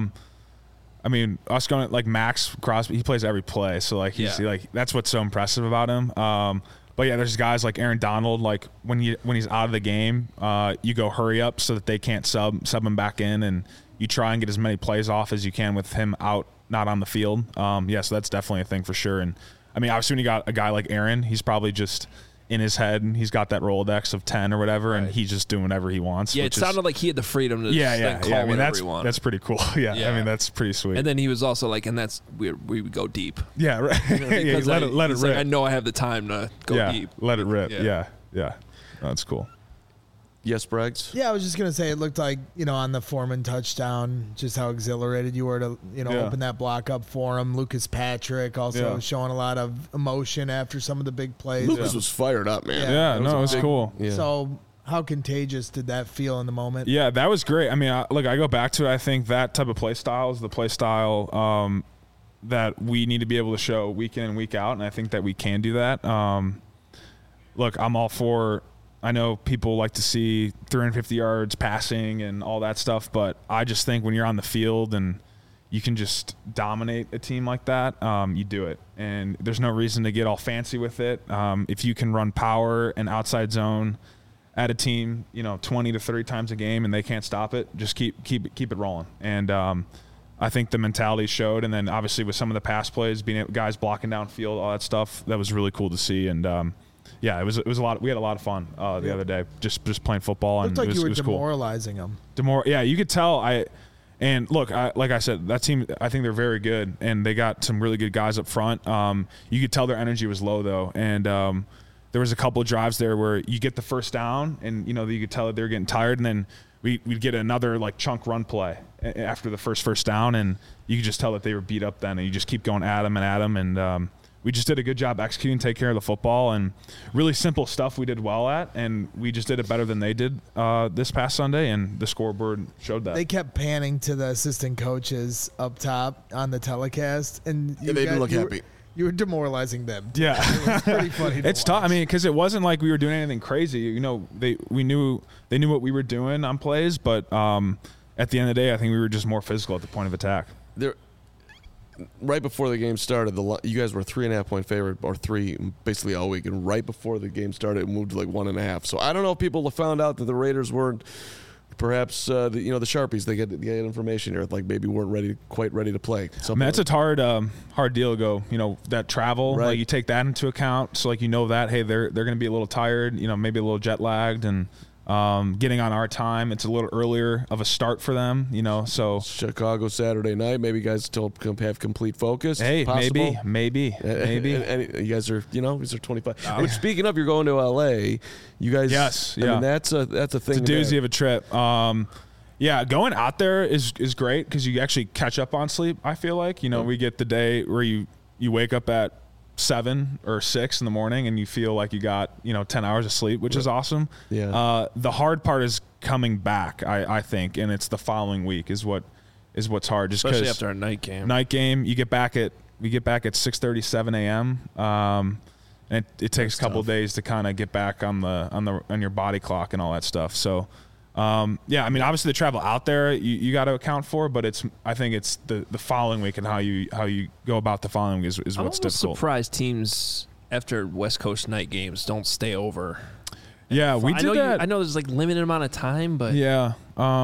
S2: I mean, us going like Max Crosby, he plays every play, so like he's like that's what's so impressive about him. But yeah, there's guys like Aaron Donald. Like when he's out of the game, you go hurry up so that they can't sub him back in, and you try and get as many plays off as you can with him out, not on the field. So that's definitely a thing for sure. And I mean, obviously when you got a guy like Aaron, he's probably just in his head, and he's got that Rolodex of 10 or whatever, and he's just doing whatever he wants.
S1: Yeah, it sounded like he had the freedom to call whatever he wanted.
S2: That's pretty cool. Yeah, I mean, that's pretty sweet.
S1: And then he was also like, and that's we would go deep.
S2: Yeah, right. Let it rip.
S1: Like, I know I have the time to go deep.
S2: Let it rip. Yeah. That's cool.
S3: Yes, Braggs?
S4: Yeah, I was just going to say it looked like, on the Foreman touchdown, just how exhilarated you were to, open that block up for him. Lucas Patrick also showing a lot of emotion after some of the big plays.
S3: Lucas was fired up, man.
S2: Yeah, it was cool.
S4: Yeah. So how contagious did that feel in the moment?
S2: Yeah, that was great. I mean, I go back to it. I think that type of play style is the play style that we need to be able to show week in and week out, and I think that we can do that. Look, I'm all for – I know people like to see 350 yards passing and all that stuff, but I just think when you're on the field and you can just dominate a team like that, you do it. And there's no reason to get all fancy with it. If you can run power and outside zone at a team, 20 to 30 times a game and they can't stop it, just keep it rolling. And I think the mentality showed. And then obviously with some of the pass plays, guys blocking downfield, all that stuff, that was really cool to see. And yeah, it was a lot. We had a lot of fun the other day, just playing football.
S4: Looked
S2: and
S4: like
S2: it was
S4: you were demoralizing
S2: cool.
S4: them.
S2: Yeah, you could tell. And look, like I said, that team, I think they're very good, and they got some really good guys up front. You could tell their energy was low though, and there was a couple of drives there where you get the first down, and you could tell that they were getting tired, and then we'd get another like chunk run play after the first down, and you could just tell that they were beat up then, and you just keep going at them, and we just did a good job executing, take care of the football, and really simple stuff we did well at, and we just did it better than they did this past Sunday, and the scoreboard showed that.
S4: They kept panning to the assistant coaches up top on the telecast, and
S3: they didn't look happy.
S4: You were demoralizing them.
S2: Yeah.
S4: It was pretty funny to
S2: It's tough. I mean, because it wasn't like we were doing anything crazy. They knew what we were doing on plays, but at the end of the day, I think we were just more physical at the point of attack.
S3: Right before the game started, you guys were a 3.5-point favorite, or 3 basically all week, and right before the game started, it moved to like 1.5. So I don't know if people have found out that the Raiders weren't, perhaps the Sharpies, they get information here, like maybe weren't quite ready to play.
S2: I mean, that's a hard deal to go. That travel,
S3: right.
S2: Like you take that into account, so like that hey, they're going to be a little tired, maybe a little jet lagged, and getting on our time, it's a little earlier of a start for them, so
S3: Chicago Saturday night, maybe you guys still have complete focus.
S2: Hey, maybe
S3: and you guys are these are 25. Which, speaking of, you're going to LA, you guys.
S2: Yes,
S3: I mean, that's a thing.
S2: It's a doozy of a trip. Yeah, going out there is great because you actually catch up on sleep. I feel like we get the day where you wake up at 7 or 6 in the morning and you feel like you got 10 hours of sleep, which is awesome.
S3: Yeah.
S2: The hard part is coming back, I think, and it's the following week is what's hard, just
S1: especially after a night game.
S2: We get back at 6:30, 7 a.m. And it takes a couple of days to kind of get back on your body clock and all that stuff. So. Yeah, I mean, obviously the travel out there you got to account for, but I think it's the following week and how you go about the following week is what's difficult.
S1: I'm surprised teams after West Coast night games don't stay over.
S2: Yeah, we did that.
S1: I know there's like limited amount of time, but
S2: yeah,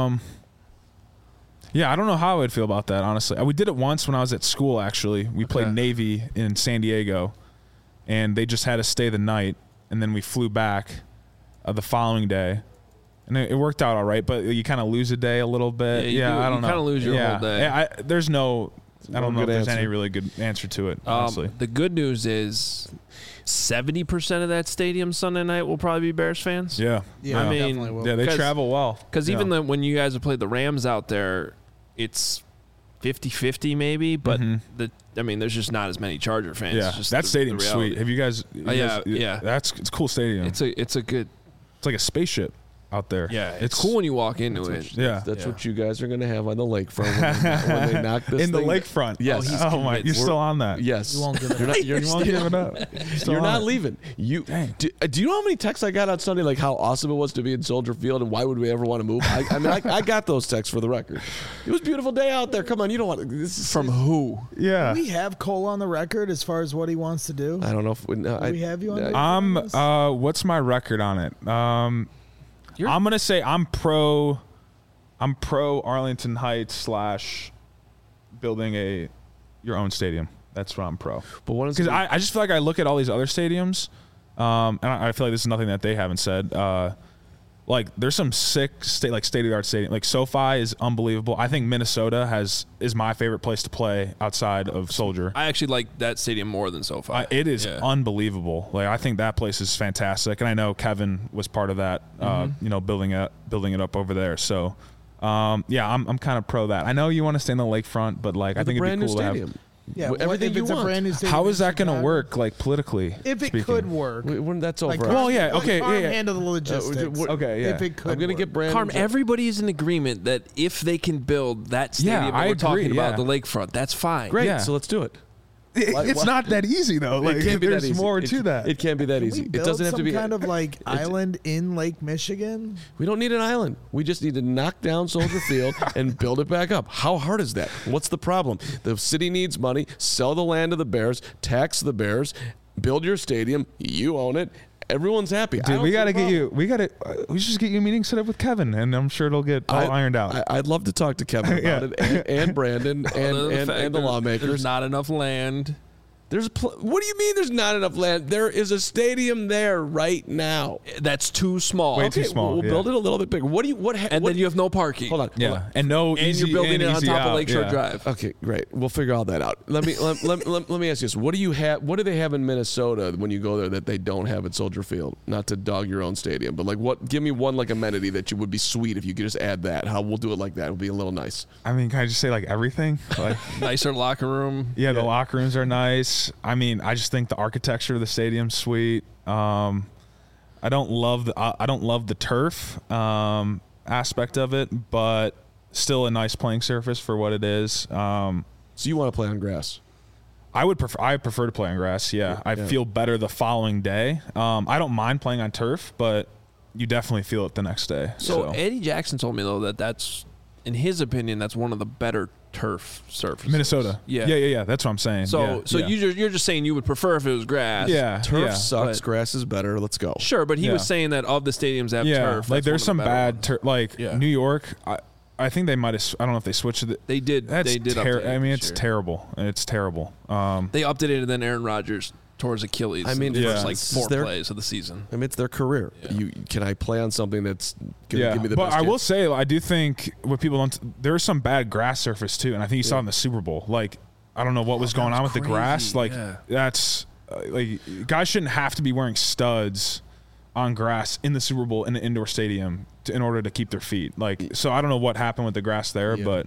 S2: yeah, I don't know how I would feel about that, honestly. We did it once when I was at school. Actually, we played Navy in San Diego, and they just had us stay the night, and then we flew back the following day. And it worked out all right, but you kind of lose a day a little bit. Yeah, I don't know.
S1: You kind of lose your whole day.
S2: I don't know if there's any really good answer to it, honestly.
S1: The good news is 70% of that stadium Sunday night will probably be Bears fans.
S2: Yeah.
S1: I mean,
S4: definitely will.
S2: Yeah, they travel well.
S1: Because even when you guys have played the Rams out there, it's 50-50 maybe, but there's just not as many Charger fans.
S2: Yeah, that stadium's sweet. Have you guys?
S1: Yeah,
S2: it's a cool stadium.
S1: It's a good.
S2: It's like a spaceship out there.
S1: Yeah, it's cool when you walk into it.
S3: That's what you guys are going to have on the lakefront when they knock this
S2: in the lakefront.
S3: Yes.
S2: Oh my, you're still on that.
S3: Yes.
S4: You won't give it up.
S2: You won't give it up.
S3: You're not leaving. Do you know how many texts I got on Sunday, like how awesome it was to be in Soldier Field and why would we ever want to move? I got those texts for the record. It was a beautiful day out there. Come on, you don't want to. This is
S1: from who?
S2: Yeah.
S4: Do we have Cole on the record as far as what he wants to do?
S3: I don't know if
S4: we have you on the
S2: what's my record on it? I'm gonna say I'm pro Arlington Heights / building your own stadium. That's what I'm pro. But what is because I just feel like I look at all these other stadiums, and I feel like this is nothing that they haven't said. Like there's some sick state of the art stadium. Like SoFi is unbelievable. I think Minnesota is my favorite place to play outside of Soldier.
S1: I actually like that stadium more than SoFi.
S2: It is unbelievable. Like I think that place is fantastic, and I know Kevin was part of that. Building it up over there. So, I'm kind of pro that. I know you want to stay in the lakefront, but I think it'd be cool to have.
S4: Yeah,
S3: everything you want.
S4: A brand new
S2: how is that going to work, politically?
S4: If it could work,
S3: that's over.
S4: Handle the logistics.
S2: Okay, yeah.
S4: If it could,
S3: I'm going to get Brandon.
S1: Carm, everybody is in agreement that if they can build that stadium we're talking about, the lakefront, that's fine.
S3: Great,
S2: yeah.
S3: so let's do it.
S2: It's not that easy though.
S3: It can't be that easy.
S2: There's more to that.
S3: It can't be that easy.
S4: It doesn't have to be kind of island in Lake Michigan.
S3: We don't need an island. We just need to knock down Soldier Field and build it back up. How hard is that? What's the problem? The city needs money. Sell the land to the Bears. Tax the Bears. Build your stadium. You own it. Everyone's happy.
S2: Dude, we gotta get you. We should just get you a meeting set up with Kevin, and I'm sure it'll get all ironed out.
S3: I'd love to talk to Kevin about it, and Brandon, and the lawmakers.
S1: There's not enough land.
S3: What do you mean there's not enough land? There is a stadium there right now.
S1: That's too small.
S2: Way too small.
S3: We'll build it a little bit bigger.
S1: Then you have no parking.
S3: Hold on.
S2: Yeah. And you're
S1: building it on top of Lakeshore Drive.
S3: Okay, great. We'll figure all that out. Let me ask you this. What do you have? What do they have in Minnesota when you go there that they don't have at Soldier Field? Not to dog your own stadium, but what? Give me one amenity that would be sweet if you could just add that. How we'll do it like that. It'll be a little nice.
S2: I mean, can I just say everything?
S1: Nicer locker room.
S2: Yeah, the locker rooms are nice. I mean, I just think the architecture of the stadium's sweet. I don't love the turf aspect of it, but still a nice playing surface for what it is.
S3: So you want to play on grass?
S2: I prefer to play on grass. Yeah, I feel better the following day. I don't mind playing on turf, but you definitely feel it the next day.
S1: So Eddie Jackson told me though that's, in his opinion, that's one of the better turf surfaces.
S2: Minnesota. Yeah. That's what I'm saying.
S1: So you're just saying you would prefer if it was grass.
S2: Yeah.
S3: Turf sucks. Grass is better. Let's go.
S1: Sure, but he was saying that of the stadiums that have turf,
S2: there's some bad turf. New York. I think they might have. I don't know if they switched it.
S1: They did. They did.
S2: I mean, it's terrible. It's terrible.
S1: They updated it, and then Aaron Rodgers tore his Achilles.
S3: I mean,
S1: the first 4 plays of the season.
S3: I mean, it's their career. Yeah. Can I play on something that's going to give me the best?
S2: But I will say, I do think what people don't. There's some bad grass surface too, and I think you saw it in the Super Bowl. I don't know what was going on with the grass. That's guys shouldn't have to be wearing studs on grass in the Super Bowl in an indoor stadium in order to keep their feet. So I don't know what happened with the grass there, but.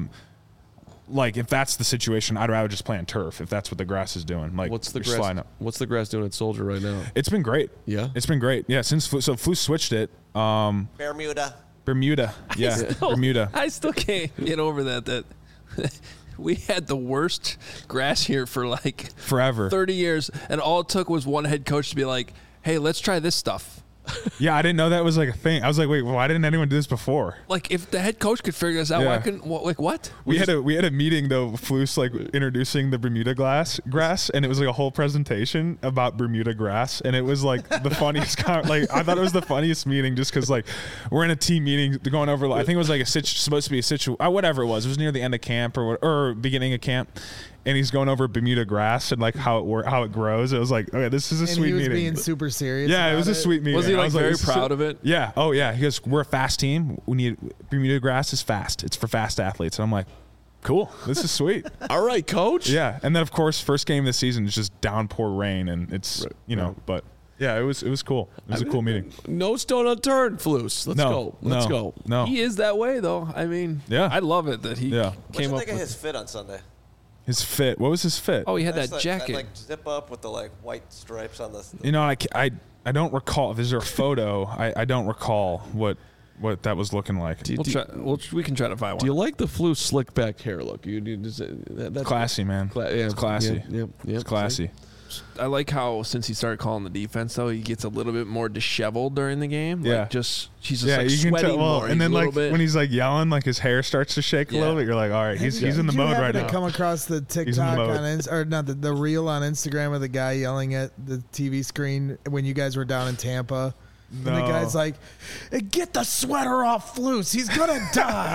S2: If that's the situation, I'd rather just play on turf if that's what the grass is doing.
S3: What's the grass doing at Soldier right now?
S2: It's been great.
S3: Yeah,
S2: it's been great. Yeah, since Flus switched it.
S5: Bermuda.
S2: Yeah, Bermuda.
S1: I still can't get over that we had the worst grass here for
S2: forever,
S1: 30 years, and all it took was one head coach to be like, "Hey, let's try this stuff."
S2: Yeah, I didn't know that was a thing. I was like, wait, why didn't anyone do this before?
S1: If the head coach could figure this out, why couldn't? What?
S2: We had a meeting though, Flus introducing the Bermuda grass, and it was a whole presentation about Bermuda grass, and it was the funniest. I thought it was the funniest meeting just because we're in a team meeting going over. I think it was supposed to be a situation, whatever it was. It was near the end of camp or beginning of camp. And he's going over Bermuda grass and how it grows. It was okay, this is a sweet meeting.
S4: He was being super serious.
S2: Yeah, it was a sweet meeting.
S1: Was he very proud of it?
S2: Yeah. Oh yeah. He goes, "We're a fast team. We need Bermuda grass is fast. It's for fast athletes." And I'm like, "Cool. This is sweet."
S3: All right, coach.
S2: Yeah. And then of course, first game of the season is just downpour rain, and it's but. Yeah, it was cool. It was a cool meeting.
S3: No stone unturned, Flus. Let's go. Let's go.
S2: No,
S1: he is that way though. I mean, I love it that he came up.
S5: What do you think of his fit on Sunday?
S2: His fit. What was his fit?
S1: Oh, he had that jacket.
S5: That zip up with the white stripes on the.
S2: I don't recall. Is there a photo? I don't recall what that was looking like.
S1: We can try to find one.
S3: Do you like the Flu slick back hair look? That's
S2: classy, man. It's classy.
S3: Yep.
S2: It's classy.
S1: I like how since he started calling the defense, though, he gets a little bit more disheveled during the game.
S2: Yeah.
S1: Like she's just
S2: you
S1: sweating
S2: can tell,
S1: more.
S2: And then when he's like yelling, like his hair starts to shake a little bit. You're like, all right, he's in the mode right now.
S4: Did you come across the TikTok or not the reel on Instagram of the guy yelling at the TV screen when you guys were down in Tampa? No. And the guy's like, "Get the sweater off Flus. He's gonna die."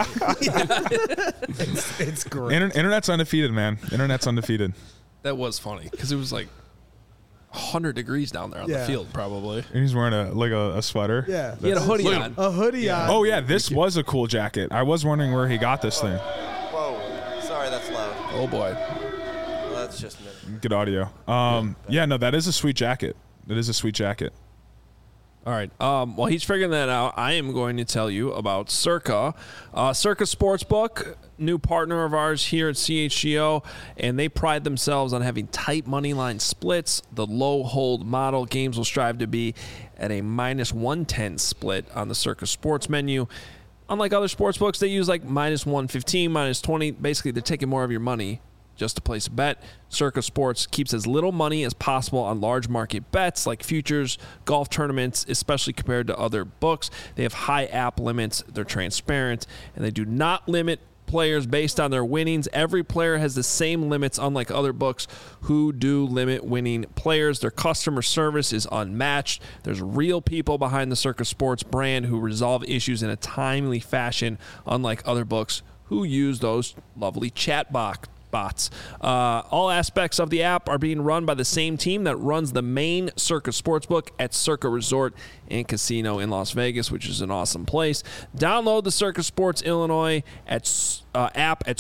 S4: It's great.
S2: Internet's undefeated, man. Internet's undefeated.
S1: That was funny because it was like 100 degrees down there on the field, probably.
S2: And he's wearing a sweater.
S4: Yeah,
S1: he had a hoodie on.
S4: A hoodie on.
S2: Oh yeah, this was a cool jacket. I was wondering where he got this thing.
S5: Whoa, sorry, that's loud.
S1: Oh boy.
S5: Well, that's just me.
S2: Good audio. No, that is a sweet jacket. That is a sweet jacket.
S1: All right. While he's figuring that out, I am going to tell you about Circa. Circa Sportsbook, new partner of ours here at CHGO, and they pride themselves on having tight money line splits. The low hold model games will strive to be at a -110 split on the Circa Sports menu. Unlike other sportsbooks, they use like -115, -20. Basically, they're taking more of your money just to place a bet. Circa Sports keeps as little money as possible on large market bets like futures, golf tournaments, especially compared to other books. They have high app limits, they're transparent, and they do not limit players based on their winnings. Every player has the same limits, unlike other books who do limit winning players. Their customer service is unmatched. There's real people behind the Circa Sports brand who resolve issues in a timely fashion, unlike other books who use those lovely chat bots. All aspects of the app are being run by the same team that runs the main Circa Sportsbook at Circa Resort and Casino in Las Vegas, which is an awesome place. Download the Circa Sports Illinois app at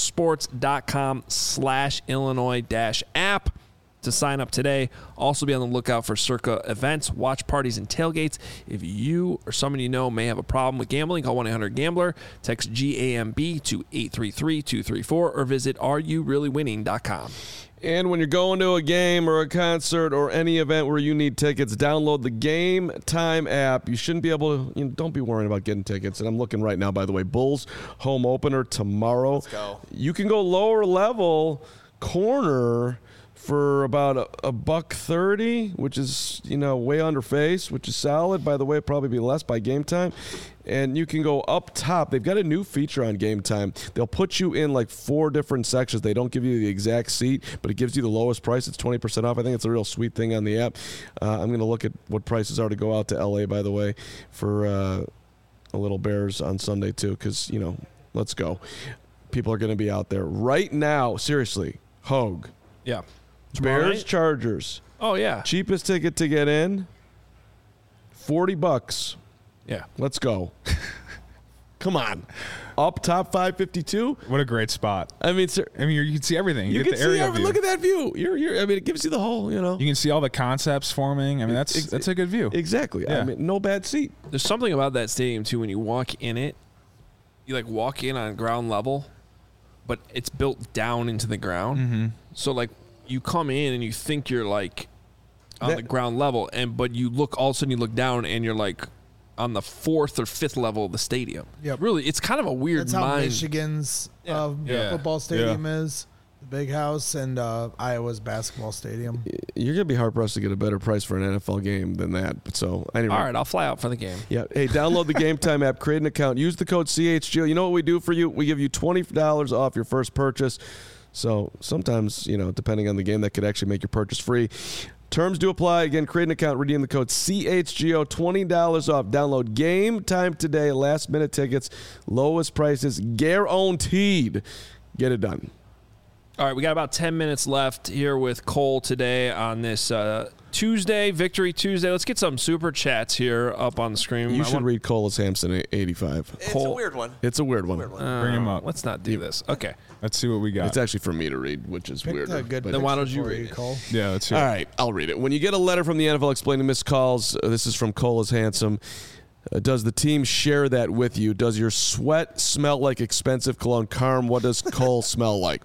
S1: circasports.com/Illinois-app to sign up today. Also be on the lookout for Circa events, watch parties, and tailgates. If you or someone you know may have a problem with gambling, call 1-800-GAMBLER, text GAMB to 833-234, or visit areyoureallywinning.com.
S3: And when you're going to a game or a concert or any event where you need tickets, download the Game Time app. You shouldn't be able to, don't be worrying about getting tickets. And I'm looking right now, by the way, Bulls home opener tomorrow.
S5: Let's go.
S3: You can go lower level corner for about $130, which is, way under face, which is solid. By the way, probably be less by Game Time. And you can go up top. They've got a new feature on Game Time. They'll put you in like 4 different sections. They don't give you the exact seat, but it gives you the lowest price. It's 20% off. I think it's a real sweet thing on the app. I'm going to look at what prices are to go out to LA, by the way, for a little Bears on Sunday too, because, let's go. People are going to be out there right now. Seriously, Hogue.
S1: Yeah.
S3: Bears, Chargers.
S1: Oh, yeah.
S3: Cheapest ticket to get in, $40.
S1: Yeah.
S3: Let's go. Come on. Up top 552.
S2: What a great spot.
S3: I mean, sir,
S2: you can see everything.
S3: You
S2: get
S3: can
S2: the aerial
S3: see
S2: view.
S3: Look at that view. It gives you the whole,
S2: You can see all the concepts forming. I mean, that's a good view.
S3: Exactly.
S2: Yeah.
S3: I mean, no bad seat.
S1: There's something about that stadium, too, when you walk in it, you like walk in on ground level, but it's built down into the ground.
S2: Mm-hmm.
S1: So, like, you come in and you think you're like on the ground level, but you look, all of a sudden you look down and you're like on the 4th or 5th level of the stadium.
S4: Yep.
S1: Really, it's kind of a weird
S4: That's how Michigan's football stadium is. The big house, and Iowa's basketball stadium.
S3: You're going to be hard-pressed to get a better price for an NFL game than that. But so, anyway.
S1: All right, I'll fly out for the game.
S3: Yeah. Hey, download the Game Time app, create an account, use the code CHGO. You know what we do for you? We give you $20 off your first purchase. So sometimes, depending on the game, that could actually make your purchase free. Terms do apply. Again, create an account, redeem the code CHGO, $20 off. Download Game Time today. Last-minute tickets, lowest prices, guaranteed. Get it done.
S1: All right, we got about 10 minutes left here with Cole today on this Tuesday, Victory Tuesday. Let's get some super chats here up on the screen.
S3: You should read Cole Hampson 85.
S5: It's a weird one.
S3: It's a weird one.
S2: Bring him up.
S1: Let's not do this. Okay.
S2: Let's see what we got.
S3: It's actually for me to read, which is weird.
S1: Then why don't you read it,
S4: Cole?
S2: Yeah, let's hear
S3: All right, I'll read it. When you get a letter from the NFL explaining missed calls, this is from Cole is Handsome. Does the team share that with you? Does your sweat smell like expensive cologne? Carm, what does Cole smell like?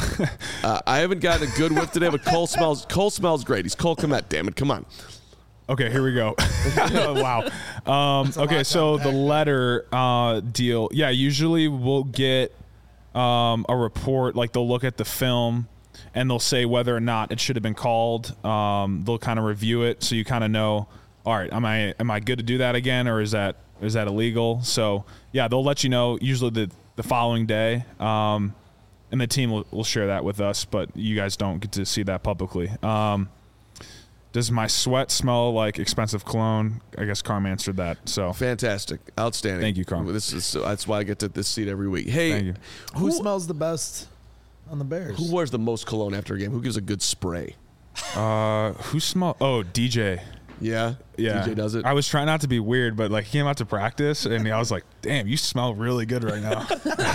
S3: I haven't gotten a good whiff today, but Cole smells great. He's Cole Kmet, damn it. Come on.
S2: Okay, here we go. Wow. Okay, so the letter deal. Yeah, usually we'll get a report. Like they'll look at the film and they'll say whether or not it should have been called. They'll kind of review it, so you kind of know. All right, am I good to do that again, or is that illegal? So yeah, they'll let you know usually the following day, and the team will share that with us, but you guys don't get to see that publicly. Does my sweat smell like expensive cologne? I guess Carm answered that. So
S3: fantastic, outstanding.
S2: Thank you, Carm.
S3: That's why I get to this seat every week. Hey,
S2: thank you.
S4: Who smells the best on the Bears?
S3: Who wears the most cologne after a game? Who gives a good spray?
S2: Who smell? Oh, DJ.
S3: Yeah, DJ does it.
S2: I was trying not to be weird, but like he came out to practice, and I was like, "Damn, you smell really good right now."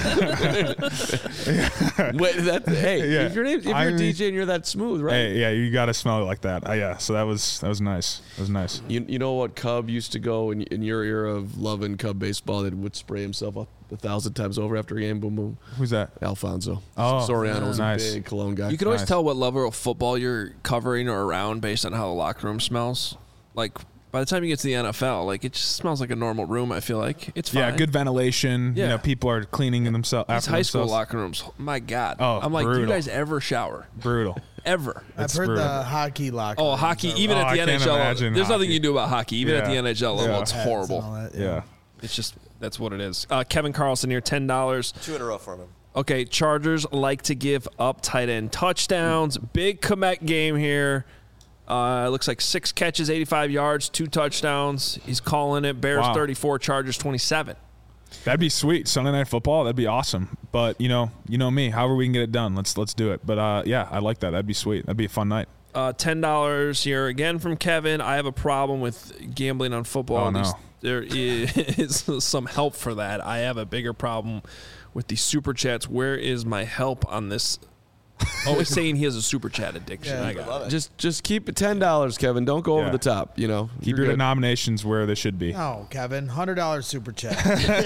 S3: Wait, if you're DJ and you're that smooth, right?
S2: Hey, yeah, you got to smell it like that. Yeah, so that was nice. That was nice.
S3: You know what Cub used to go in your era of loving Cub baseball? That would spray himself up 1,000 times over after a game. Boom, boom.
S2: Who's that?
S3: Alfonso.
S2: Oh,
S3: Soriano was
S2: nice.
S3: a big cologne guy.
S1: You can always tell what level of football you're covering or around based on how the locker room smells. Like, by the time you get to the NFL, like, it just smells like a normal room, I feel like. It's fine.
S2: Yeah, good ventilation.
S1: Yeah.
S2: You know, people are cleaning themselves
S1: These
S2: after
S1: high school
S2: themselves.
S1: locker rooms, my God.
S2: Oh,
S1: I'm like,
S2: brutal.
S1: do you guys ever shower?
S2: Brutal.
S1: Ever.
S4: I've heard
S2: brutal.
S4: the hockey locker.
S1: Oh,
S4: rooms
S1: hockey,
S4: are
S1: even
S4: rough.
S1: at the
S2: I can't
S1: NHL.
S2: imagine
S1: There's nothing
S2: hockey.
S1: you can do about hockey. Even at the
S2: Yeah.
S1: NHL level,
S2: Yeah.
S1: it's
S4: Pets and
S1: horrible.
S4: all that,
S2: Yeah.
S1: It's just, that's what it is. Kevin Carlson here, $10.
S5: 2 in a row for him.
S1: Okay, Chargers like to give up tight end touchdowns. Big Komet game here. It looks like 6 catches, 85 yards, 2 touchdowns. He's calling it. Bears
S2: Wow.
S1: 34, Chargers 27.
S2: That'd be sweet. Sunday Night Football. That'd be awesome. But you know me. However we can get it done, let's do it. But yeah, I like that. That'd be sweet. That'd be a fun night.
S1: $10 here again from Kevin. I have a problem with gambling on football.
S2: Oh,
S1: At
S2: no.
S1: least there is some help for that. I have a bigger problem with the super chats. Where is my help on this? Oh, he's saying he has a super chat addiction.
S4: Yeah.
S1: I got it.
S3: Just keep it $10, Kevin. Don't go over
S2: Yeah.
S3: the top. You know,
S2: Keep
S3: You're
S2: your
S3: good.
S2: denominations where they should be.
S4: Oh, Kevin, $100 super chat.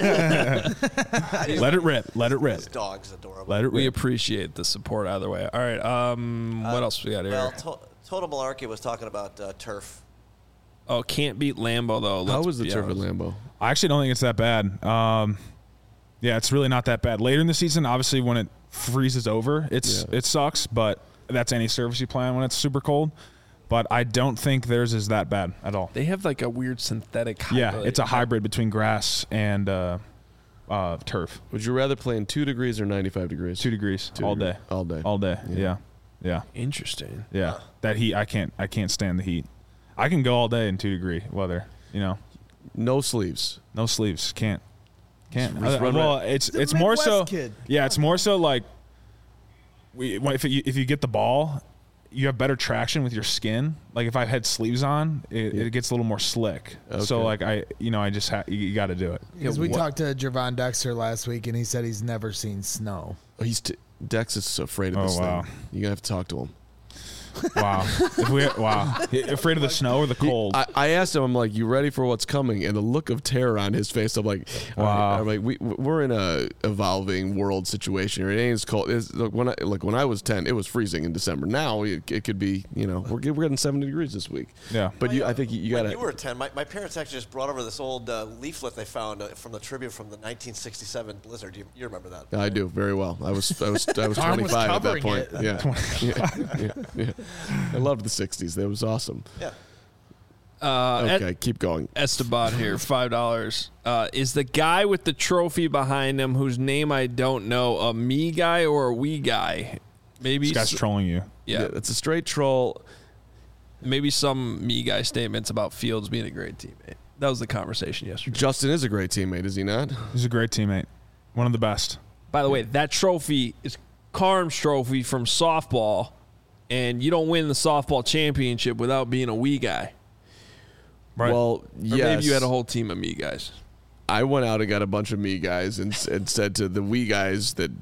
S2: Let it rip. Let it rip.
S5: His dog's adorable.
S2: Let it
S1: We
S2: rip.
S1: appreciate the support either way. All right. What else we got here?
S5: Well, Total Malarkey was talking about turf.
S1: Oh, can't beat Lambeau though.
S3: How
S1: Let's
S3: was the
S1: be
S3: turf at
S1: honest.
S3: Lambeau?
S2: I actually don't think it's that bad. Yeah, it's really not that bad. Later in the season, obviously, when it freezes over, it sucks. But that's any service you plan when it's super cold. But I don't think theirs is that bad at all.
S1: They have like a weird synthetic.
S2: Yeah,
S1: hybrid.
S2: it's a hybrid between grass and turf.
S3: Would you rather play in 2 degrees or 95 degrees?
S2: 2 degrees all day.
S3: All day.
S2: All day. Yeah.
S1: Interesting.
S2: Yeah. That heat, I can't stand the heat. I can go all day in 2-degree weather. You know,
S3: No sleeves.
S2: no sleeves. Can't.
S3: Just run
S2: Well,
S3: right-
S2: it's more so.
S4: Midwest kid.
S2: Yeah, it's more so like if you get the ball, you have better traction with your skin. Like if I had sleeves on, it gets a little more slick. So
S3: Okay.
S2: like I just you got to do it.
S4: Because we talked to Javon Dexter last week, and he said he's never seen snow.
S3: Oh, Dex is so afraid of this
S2: wow.
S3: thing. You're going to have to talk to him.
S2: Wow. Afraid of the snow or the cold?
S3: I asked him, I'm like, you ready for what's coming? And the look of terror on his face, I'm like,
S2: Wow.
S3: all right. I'm like, we're in a evolving world situation here. It ain't as cold. When I was 10, it was freezing in December. Now it could be, we're getting 70 degrees this week.
S2: Yeah.
S3: But I think you got
S5: When
S3: to.
S5: you were 10, my parents actually just brought over this old leaflet they found from the tribute from the 1967 blizzard. You remember that?
S3: I do very well. I was 25 at that
S4: covering
S3: point.
S4: it.
S3: Yeah. I loved the 60s. That was awesome.
S5: Yeah.
S3: Okay, keep going.
S1: Esteban here, $5. Is the guy with the trophy behind him, whose name I don't know, a me guy or a we guy? Maybe
S2: This guy's trolling you.
S1: Yeah,
S3: It's a straight troll.
S1: maybe some me guy statements about Fields being a great teammate. That was the conversation yesterday.
S3: Justin is a great teammate, is he not?
S2: He's a great teammate. One of the best.
S1: By the way, that trophy is Carm's trophy from softball, and you don't win the softball championship without being a we guy.
S2: Right.
S3: Well,
S1: Or
S3: yes.
S1: maybe you had a whole team of me guys.
S3: I went out and got a bunch of me guys and said to the we guys that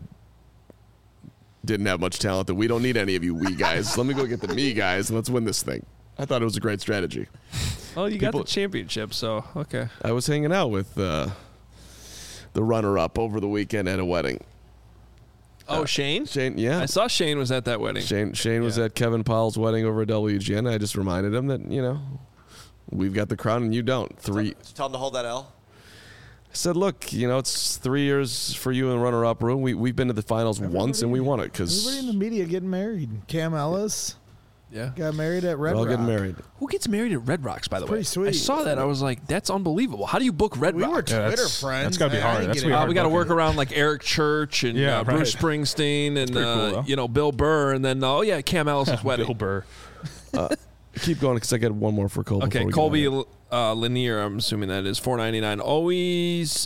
S3: didn't have much talent that we don't need any of you we guys. Let me go get the me guys and let's win this thing. I thought it was a great strategy.
S1: Oh, you got
S3: People-
S1: the championship, so okay.
S3: I was hanging out with the runner-up over the weekend at a wedding.
S1: Oh, Shane?
S3: Shane, yeah.
S1: I saw Shane was at that wedding.
S3: Shane was at Kevin Powell's wedding over at WGN. I just reminded him that, we've got the crown and you don't.
S5: Tell them to hold that L.
S3: I said, look, it's 3 years for you in runner-up room. We've been to the finals once and we won it because
S4: everybody in the media getting married. Cam Ellis, got married at Red
S3: we're all
S4: Rock.
S3: getting married.
S1: Who gets married at Red Rocks, by the way?
S4: Pretty sweet.
S1: I saw that. I was like, that's unbelievable. How do you book Red
S4: We were
S1: Rocks?
S4: Twitter friends.
S2: That's got to be hard. That's
S1: We got to work around like Eric Church and Bruce Springsteen and
S2: cool,
S1: Bill Burr, and then Cam Ellis' wedding.
S2: Bill Burr.
S3: Keep going because I got one more for Colby.
S1: Okay, Colby Lanier, I'm assuming that is $4.99. Always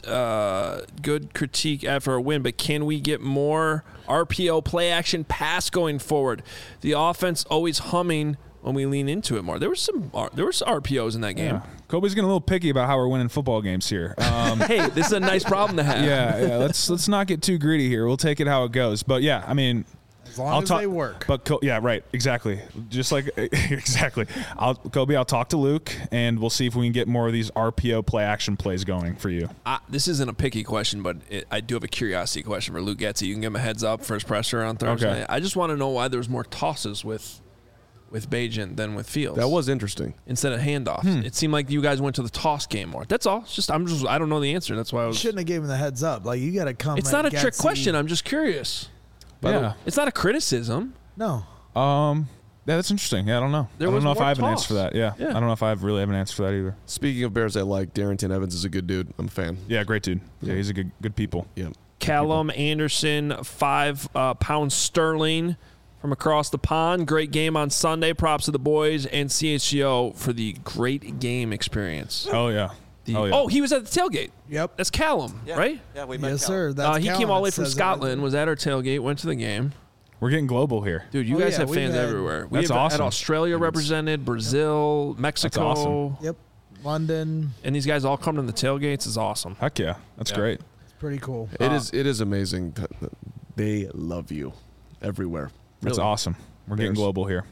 S1: good critique after a win, but can we get more RPO play action pass going forward? The offense always humming when we lean into it more. There was RPOs in that game.
S2: Yeah. Colby's getting a little picky about how we're winning football games here.
S1: Hey, this is a nice problem to have.
S2: Yeah. Let's not get too greedy here. We'll take it how it goes. But yeah, I mean.
S4: As long as they work.
S2: But right, exactly. Just like exactly. Colby, I'll talk to Luke, and we'll see if we can get more of these RPO play action plays going for you.
S1: This isn't a picky question, but I do have a curiosity question for Luke Getsy. You can give him a heads up for his presser on Thursday. Okay. I just want to know why there's more tosses with Bagent than with Fields.
S3: That was interesting.
S1: Instead of handoffs, it seemed like you guys went to the toss game more. That's all. It's just I don't know the answer. That's why I was.
S4: Shouldn't have given him the heads up. Like you got to come.
S1: It's not a trick question. I'm just curious. It's not a criticism.
S4: No.
S2: Yeah, that's interesting. Yeah, I don't know. I don't know if I have an answer for that. Yeah. I don't know if I really have an answer for that either.
S3: Speaking of Bears I like, Darrington Evans is a good dude. I'm a fan.
S2: Yeah, great dude. Yeah, he's a good people.
S3: Yeah.
S1: Callum Anderson, 5 pounds sterling from across the pond. Great game on Sunday. Props to the boys and CHGO for the great game experience.
S2: Oh, yeah.
S1: Oh, he was at the tailgate.
S4: Yep.
S1: That's Callum, right?
S5: Yeah, we met
S4: Yes,
S5: Callum.
S4: sir. That's
S1: He
S4: Callum.
S1: came all the way
S4: It
S1: from
S4: says
S1: Scotland, was at our tailgate, went to the game.
S2: We're getting global here.
S1: Dude, you guys have
S4: we've
S1: fans
S4: had-
S1: everywhere.
S2: That's
S1: have
S2: awesome.
S1: had Australia represented, Brazil, Mexico.
S2: That's awesome.
S4: Yep. London.
S1: And these guys all come to the tailgates. Is awesome.
S2: Heck yeah. That's great.
S4: It's pretty cool.
S3: It is amazing. They love you everywhere.
S2: That's
S3: Really.
S2: awesome. We're getting global here.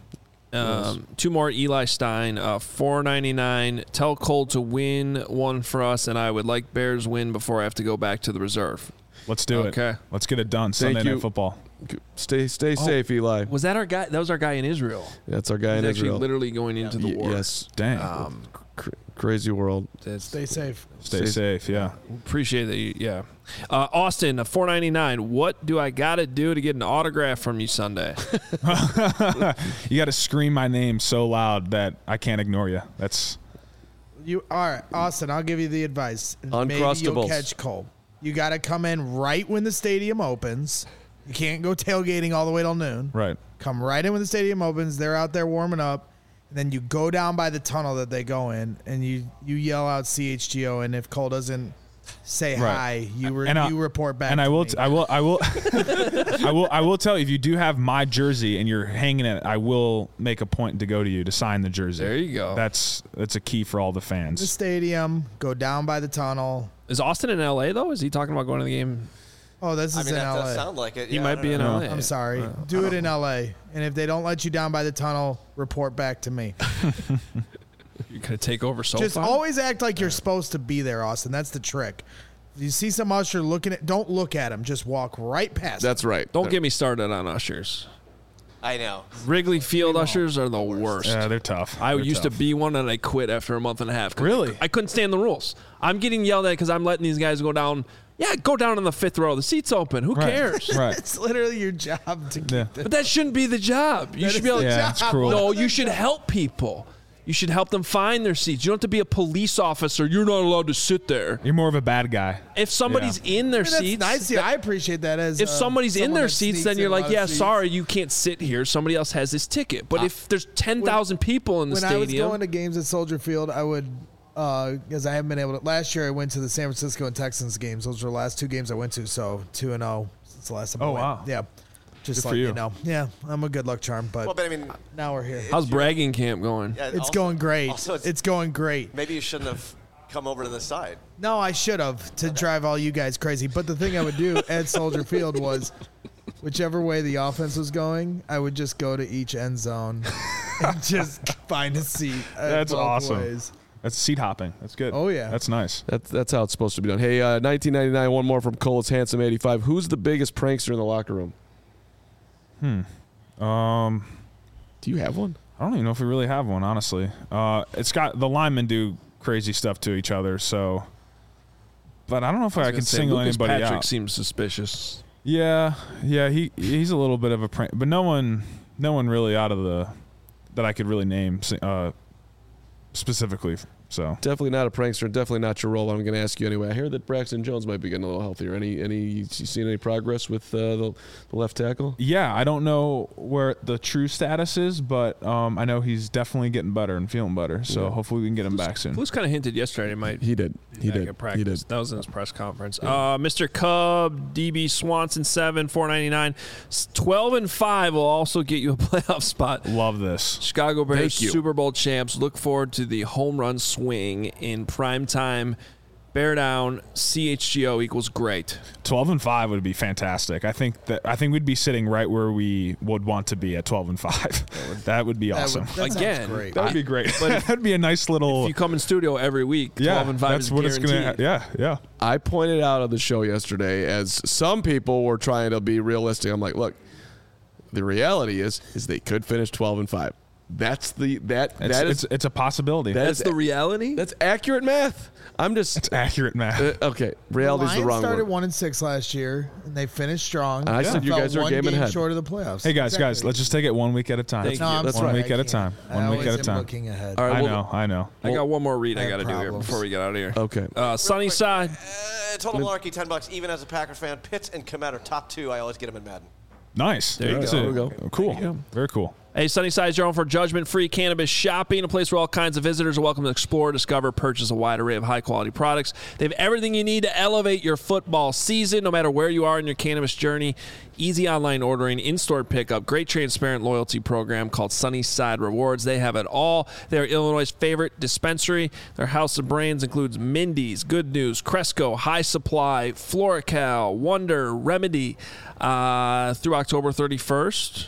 S1: 2 more Eli Stein, $4.99. Tell Cole to win one for us, and I would like Bears win before I have to go back to the reserve.
S2: Let's do it.
S1: Okay.
S2: Let's get it done.
S3: Thank
S2: Sunday
S3: you.
S2: Night Football.
S3: Stay safe, Eli.
S1: Was that our guy? That was our guy in Israel.
S3: That's our guy
S1: He's
S3: in
S1: actually
S3: Israel.
S1: literally going into the war.
S3: Yes.
S2: Dang.
S3: Crazy world.
S4: Stay safe.
S2: Stay safe. Yeah.
S1: Appreciate that. Yeah. Austin, $4.99. What do I got to do to get an autograph from you Sunday?
S2: You got to scream my name so loud that I can't ignore you. That's
S4: You all right, Austin? I'll give you the advice. Maybe
S3: Uncrustables.
S4: you'll catch Cole. You got to come in right when the stadium opens. You can't go tailgating all the way till noon.
S2: right.
S4: Come right in when the stadium opens. They're out there warming up. And then you go down by the tunnel that they go in, and you yell out CHGO. And if Cole doesn't say hi, you report back.
S2: And
S4: to
S2: I will,
S4: me.
S2: I will tell you, if you do have my jersey and you're hanging it, I will make a point to go to you to sign the jersey.
S1: There you go.
S2: That's a key for all the
S4: the
S2: fans.
S4: stadium. Go down by the tunnel.
S1: Is Austin in L.A., though? Is he talking about going to the game?
S4: Oh, this is
S5: I mean,
S4: in
S5: that
S4: LA.
S5: does sound like it.
S1: He
S5: Yeah,
S1: might
S5: I don't
S1: be in
S5: know.
S1: L.A.
S4: I'm sorry. Do it in LA. And if they don't let you down by the tunnel, report back to me.
S1: You're going to take over so
S4: Just
S1: far?
S4: always act like you're supposed to be there, Austin. That's the trick. If you see some usher looking at, don't look at him. Just walk right past him.
S3: That's right.
S1: Don't get me started on ushers.
S5: I know.
S1: Wrigley Field ushers are the worst.
S2: Yeah, they're tough.
S1: I
S2: They're
S1: used
S2: tough.
S1: to be one, and I quit after a month and a half.
S2: Really?
S1: I couldn't stand the rules. I'm getting yelled at because I'm letting these guys go down. Yeah, go down in the 5th row. The seat's open. Who cares?
S2: Right.
S4: It's literally your job to keep
S2: Yeah.
S1: But that shouldn't be the job. You should be able to.
S2: Yeah, it's cruel.
S1: No, you should help people. You should help them find their seats. You don't have to be a police officer. You're not allowed to sit there.
S2: You're more of a bad guy.
S1: If somebody's in their
S4: That's
S1: seats,
S4: nice. Yeah, I appreciate that. As
S1: if somebody's in
S4: someone
S1: their
S4: that
S1: seats,
S4: sneaks
S1: then
S4: in
S1: you're
S4: a
S1: like,
S4: lot of
S1: yeah,
S4: seats.
S1: sorry, you can't sit here. Somebody else has this ticket. But if there's 10,000 people in the
S4: When I was
S1: stadium,
S4: going to games at Soldier Field, I would, because I haven't been able to. Last year, I went to the San Francisco and Texans games. Those were the last 2 games I went to. So 2-0 since the last time. I went.
S2: wow.
S4: Yeah, just
S2: Good
S4: like
S2: for you.
S4: you know. Yeah, I'm a good luck charm, but,
S5: Well, but I mean,
S4: now we're here.
S1: how's bragging camp going?
S5: yeah,
S4: It's
S5: also-
S4: going great.
S5: Also,
S4: It's going great.
S5: maybe you shouldn't have come over to the side.
S4: No, I should have to drive all you guys crazy. But the thing I would do at Soldier Field was, whichever way the offense was going, I would just go to each end zone and just find a seat.
S2: That's
S4: both
S2: awesome.
S4: ways.
S2: That's seat hopping. That's good.
S4: Oh, yeah.
S2: That's nice.
S3: That's how it's supposed to be done. Hey, 1999, one more from Cole. It's Handsome 85. Who's the biggest prankster in the locker room? Do you have one?
S2: I don't even know if we really have one, honestly. It's got the linemen do crazy stuff to each other, so. But I don't know if I can single
S1: Lucas
S2: anybody
S1: Patrick
S2: out.
S1: Seems suspicious.
S2: Yeah, he's a little bit of a prank, but no one really out of that I could really name specifically. So
S3: definitely not a prankster. Definitely not your role. I'm going to ask you anyway. I hear that Braxton Jones might be getting a little healthier. You seen any progress with the left tackle?
S2: Yeah, I don't know where the true status is, but I know he's definitely getting better and feeling better. So hopefully we can get him back soon.
S1: Flus kind of hinted yesterday he might.
S3: He did. He did.
S1: That was in his press conference. Mr. Cub, DB Swanson 7, $4.99. 12-5 will also get you a playoff spot.
S2: Love this.
S1: Chicago Bears Super Bowl champs. Look forward to the home run swing in prime time. Bear down. CHGO equals great.
S2: 12-5 would be fantastic. I think we'd be sitting right where we would want to be at 12-5. That would be awesome.
S1: Again,
S4: great.
S2: That would be great. But that'd be a nice little.
S1: If you come in studio every week, 12-5
S2: that's
S1: is
S2: what
S1: guaranteed.
S2: it's gonna. Yeah.
S3: I pointed out on the show yesterday, as some people were trying to be realistic. I'm like, look, the reality is they could finish 12-5.
S2: It's a possibility.
S1: That's the reality.
S3: That's accurate math.
S2: It's accurate math.
S3: Okay, reality is the wrong
S4: started
S3: word.
S4: 1-6 last year, and they finished strong.
S3: I said you guys are a game ahead.
S4: Short of the playoffs.
S2: Hey guys, let's just take it 1 week at a time.
S3: That's
S2: one
S3: right.
S2: week at a time. 1 week at a time.
S4: Looking ahead.
S3: All right,
S2: I know.
S1: I got one more read I
S4: have
S1: got to do here
S4: problems.
S1: before we get out of here.
S3: Okay.
S1: Sunny side.
S5: Total Malarkey, $10. Even as a Packers fan, Pitts and Kmet are top 2. I always get them in Madden.
S2: Nice.
S1: There you go.
S3: There we go.
S2: Cool. Very cool.
S1: Hey, Sunnyside is your home for judgment-free cannabis shopping, a place where all kinds of visitors are welcome to explore, discover, purchase a wide array of high-quality products. They have everything you need to elevate your football season, no matter where you are in your cannabis journey. Easy online ordering, in-store pickup, great transparent loyalty program called Sunnyside Rewards. They have it all. They are Illinois' favorite dispensary. Their house of brands includes Mindy's, Good News, Cresco, High Supply, Florical, Wonder, Remedy. Through October 31st.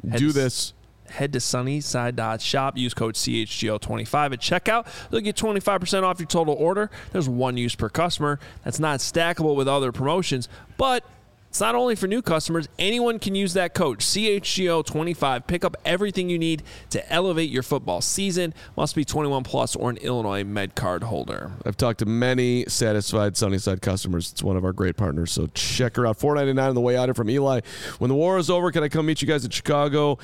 S1: Head to sunnyside.shop. Use code CHGO25 at checkout. They'll get 25% off your total order. There's one use per customer. That's not stackable with other promotions, but it's not only for new customers. Anyone can use that code, CHGO25. Pick up everything you need to elevate your football season. Must be 21 plus or an Illinois Med Card holder.
S3: I've talked to many satisfied Sunnyside customers. It's one of our great partners, so check her out. $4.99 on the way out here from Eli. When the war is over, can I come meet you guys in Chicago?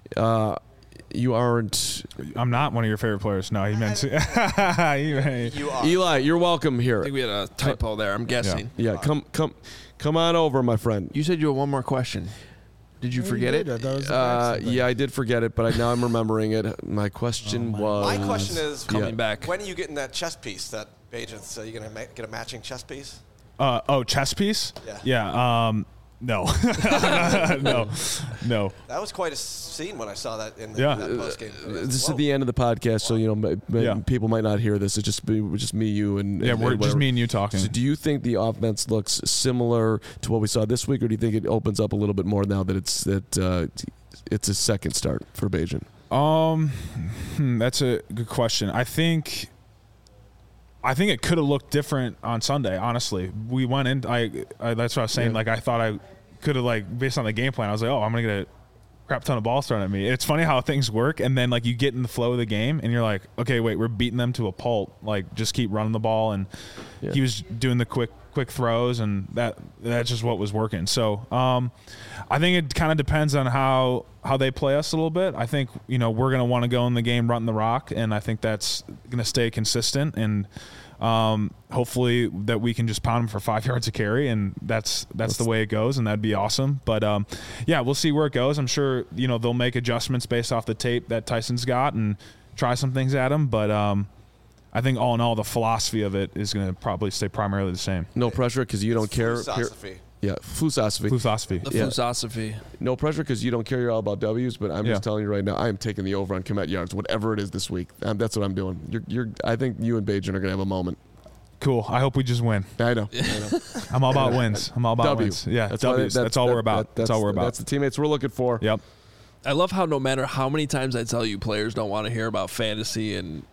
S3: You aren't.
S2: I'm not one of your favorite players. No, he meant.
S5: You are.
S3: Eli, you're welcome
S1: I
S3: here.
S1: think we had a typo there, I'm guessing.
S3: Yeah, come on over, my friend.
S1: You said you had one more question. Did you forget it?
S3: Yeah, I did forget it, but now I'm remembering it. My question was.
S5: My question is
S1: coming back.
S5: When are you getting that chess piece? That Bajent's, you going to get a matching chess piece?
S2: Chess piece?
S5: Yeah.
S2: Yeah. No. No.
S5: That was quite a scene when I saw that in
S2: Yeah.
S5: that postgame.
S3: This is at the end of the podcast, so people might not hear this. It's just me, you, and
S2: Yeah, we're just
S3: whatever.
S2: me and you talking.
S3: So, do you think the offense looks similar to what we saw this week, or do you think it opens up a little bit more now that it's a second start for Bagent?
S2: That's a good question. I think it could have looked different on Sunday. Honestly, we went in. That's what I was saying.
S3: Yeah.
S2: Like I thought I could have based on the game plan. I was like, oh, I'm gonna get a crap ton of balls thrown at me. It's funny how things work, and then you get in the flow of the game, and you're like, okay, wait, we're beating them to a pulp. Just keep running the ball, and he was doing the quick throws, and that's just what was working. So I think it kind of depends on how they play us a little bit. I think we're going to want to go in the game running the rock, and I think that's going to stay consistent, and hopefully that we can just pound them for 5 yards a carry, and that's the way it goes, and that'd be awesome. But we'll see where it goes. I'm sure they'll make adjustments based off the tape that Tyson's got and try some things at him, but I think all in all, the philosophy of it is going to probably stay primarily the same.
S3: No pressure because you don't care.
S5: Philosophy.
S3: Yeah, philosophy.
S1: The philosophy.
S3: No pressure because you don't care. You're all about W's. But I'm just telling you right now, I am taking the over on Kmet yards, whatever it is this week. That's what I'm doing. I think you and Bajan are going to have a moment.
S2: Cool. I hope we just win.
S3: I know.
S2: I'm all about wins. I'm all about wins. Yeah, W's. That's all we're about. That's all we're about.
S3: That's the teammates we're looking for.
S2: Yep.
S1: I love how no matter how many times I tell you players don't want to hear about fantasy and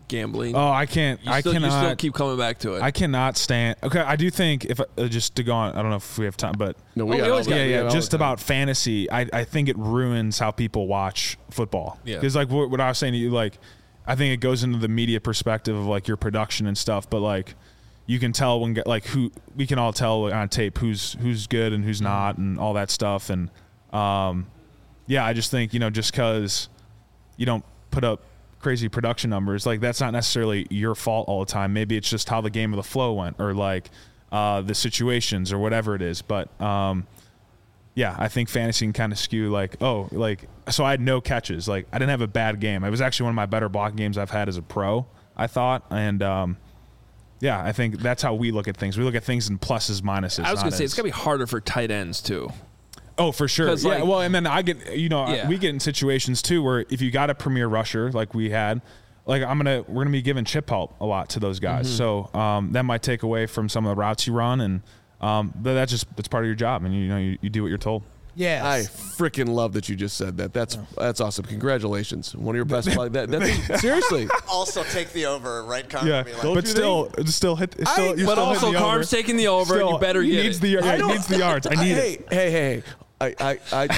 S1: gambling.
S2: Oh, I can't.
S1: You still keep coming back to it.
S2: I cannot stand. Okay, I do think if just to go on. I don't know if we have time, but
S3: no, we always got
S2: just about fantasy. I think it ruins how people watch football. Yeah, because like what I was saying to you, like I think it goes into the media perspective of like your production and stuff, but like you can tell when we can all tell on tape who's good and who's not and all that stuff. And I just think just because you don't put up crazy production numbers, like that's not necessarily your fault all the time. Maybe it's just how the game of the flow went, or like the situations or whatever it is. But I think fantasy can kind of skew so I had no catches. Like I didn't have a bad game. It was actually one of my better blocking games I've had as a pro, I thought. And I think that's how we look at things. We look at things in pluses, minuses.
S1: I was going to say it's going to be harder for tight ends too.
S2: Oh, for sure. Yeah. Well, and then I get, we get in situations too where if you got a premier rusher like we had, like we're gonna be giving chip help a lot to those guys. So that might take away from some of the routes you run, and but that's part of your job, and you do what you're told.
S4: Yeah,
S3: I freaking love that you just said that. That's awesome. Congratulations, one of your best. That's seriously.
S5: Also take the over, right? Carm?
S2: Yeah, but still hit.
S1: But also, Carm's taking the over. And you better get it.
S2: He needs the yards. I need it.
S3: Hey. I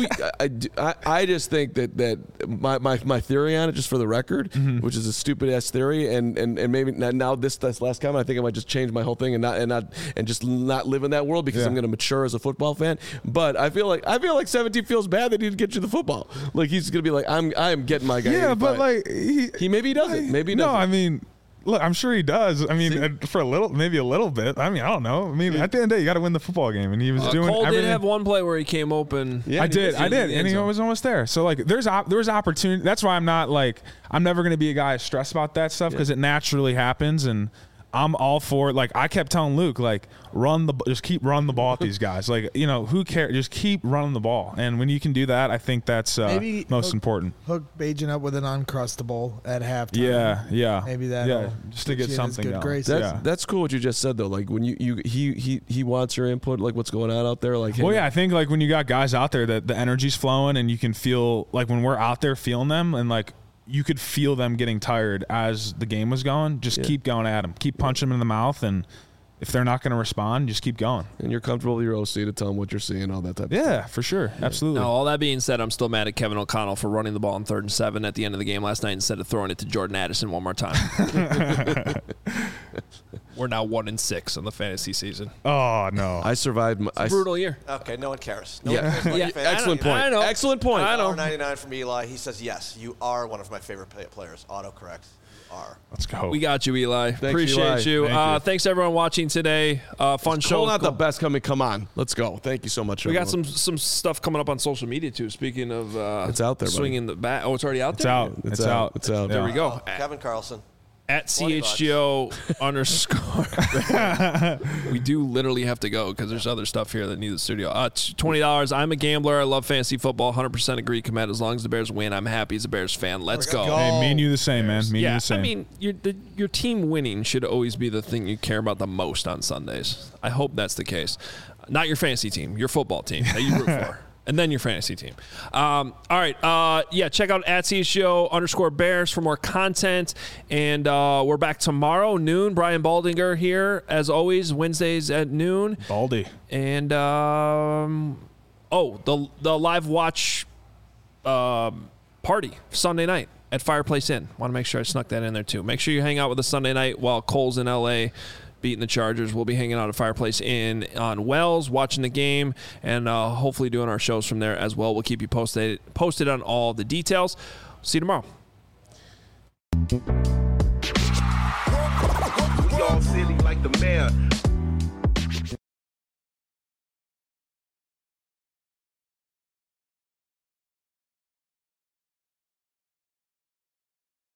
S3: just think that my theory on it, just for the record, which is a stupid ass theory, and maybe now this last comment, I think I might just change my whole thing and just not live in that world because I'm going to mature as a football fan. But I feel like 17 feels bad that he didn't get you the football. Like he's going to be like, I am getting my guy.
S2: Yeah, but like
S3: he maybe he doesn't. Maybe he doesn't.
S2: No, I mean. Look, I'm sure he does. I mean, for maybe a little bit. I mean, I don't know. I mean, at the end of the day, you got to win the football game, and he was doing
S1: Cole
S2: everything.
S1: Did have one play where he came open.
S2: Yeah, I did, and he was almost there. So like, there's opportunity. That's why I'm never going to be a guy stressed about that stuff because it naturally happens, and I'm all for it. Like I kept telling Luke, like just keep running the ball at these guys. Like who cares? Just keep running the ball, and when you can do that, I think that's most important.
S4: Hook Bajan up with an Uncrustable at halftime.
S2: Yeah.
S4: Maybe that.
S2: Just to get something going.
S3: That's cool what you just said though. Like when he wants your input, like what's going on out there. Like
S2: I think like when you got guys out there that the energy's flowing and you can feel like when we're out there feeling them and like. You could feel them getting tired as the game was going. Just keep going at them. Keep punching them in the mouth, and if they're not going to respond, just keep going.
S3: And you're comfortable with your OC to tell them what you're seeing, all that type of stuff.
S2: Yeah, for sure. Absolutely.
S1: Now, all that being said, I'm still mad at Kevin O'Connell for running the ball on 3rd and 7 at the end of the game last night instead of throwing it to Jordan Addison one more time. We're now 1-6 on the fantasy season.
S2: Oh, no.
S3: I survived.
S1: It's a brutal year.
S5: Okay, no one cares.
S3: Excellent point.
S1: I know.
S3: Excellent point.
S1: I know.
S5: $1.99 from Eli. He says, yes, you are one of my favorite players. Autocorrect.
S2: Let's go.
S1: We got you, Eli.
S3: Thanks,
S1: Appreciate you. Thanks everyone watching today. Fun show.
S3: Not the best coming. Come on, let's go. Thank you so much.
S1: We got some stuff coming up on social media too. Speaking of,
S3: it's out there.
S1: Swinging the bat. Oh, it's already out
S2: there.
S3: It's out.
S1: Yeah. There we go.
S5: Kevin Carlson.
S1: At CHGO _. We do literally have to go because there's other stuff here that need the studio. $20. I'm a gambler. I love fantasy football. 100% agree. Commit as long as the Bears win. I'm happy as a Bears fan. Let's go.
S2: Hey, me and you the same, man. Me and you the same.
S1: I mean, your team winning should always be the thing you care about the most on Sundays. I hope that's the case. Not your fantasy team, your football team that you root for. And then your fantasy team. All right. Check out at CHGO _Bears for more content. And we're back tomorrow, noon. Brian Baldinger here, as always, Wednesdays at noon.
S2: Baldy.
S1: And, the live watch party Sunday night at Fireplace Inn. Want to make sure I snuck that in there, too. Make sure you hang out with us Sunday night while Cole's in L.A., beating the Chargers. We'll be hanging out at Fireplace Inn on Wells, watching the game, and hopefully doing our shows from there as well. We'll keep you posted on all the details. See you tomorrow.
S6: We all silly like the mayor.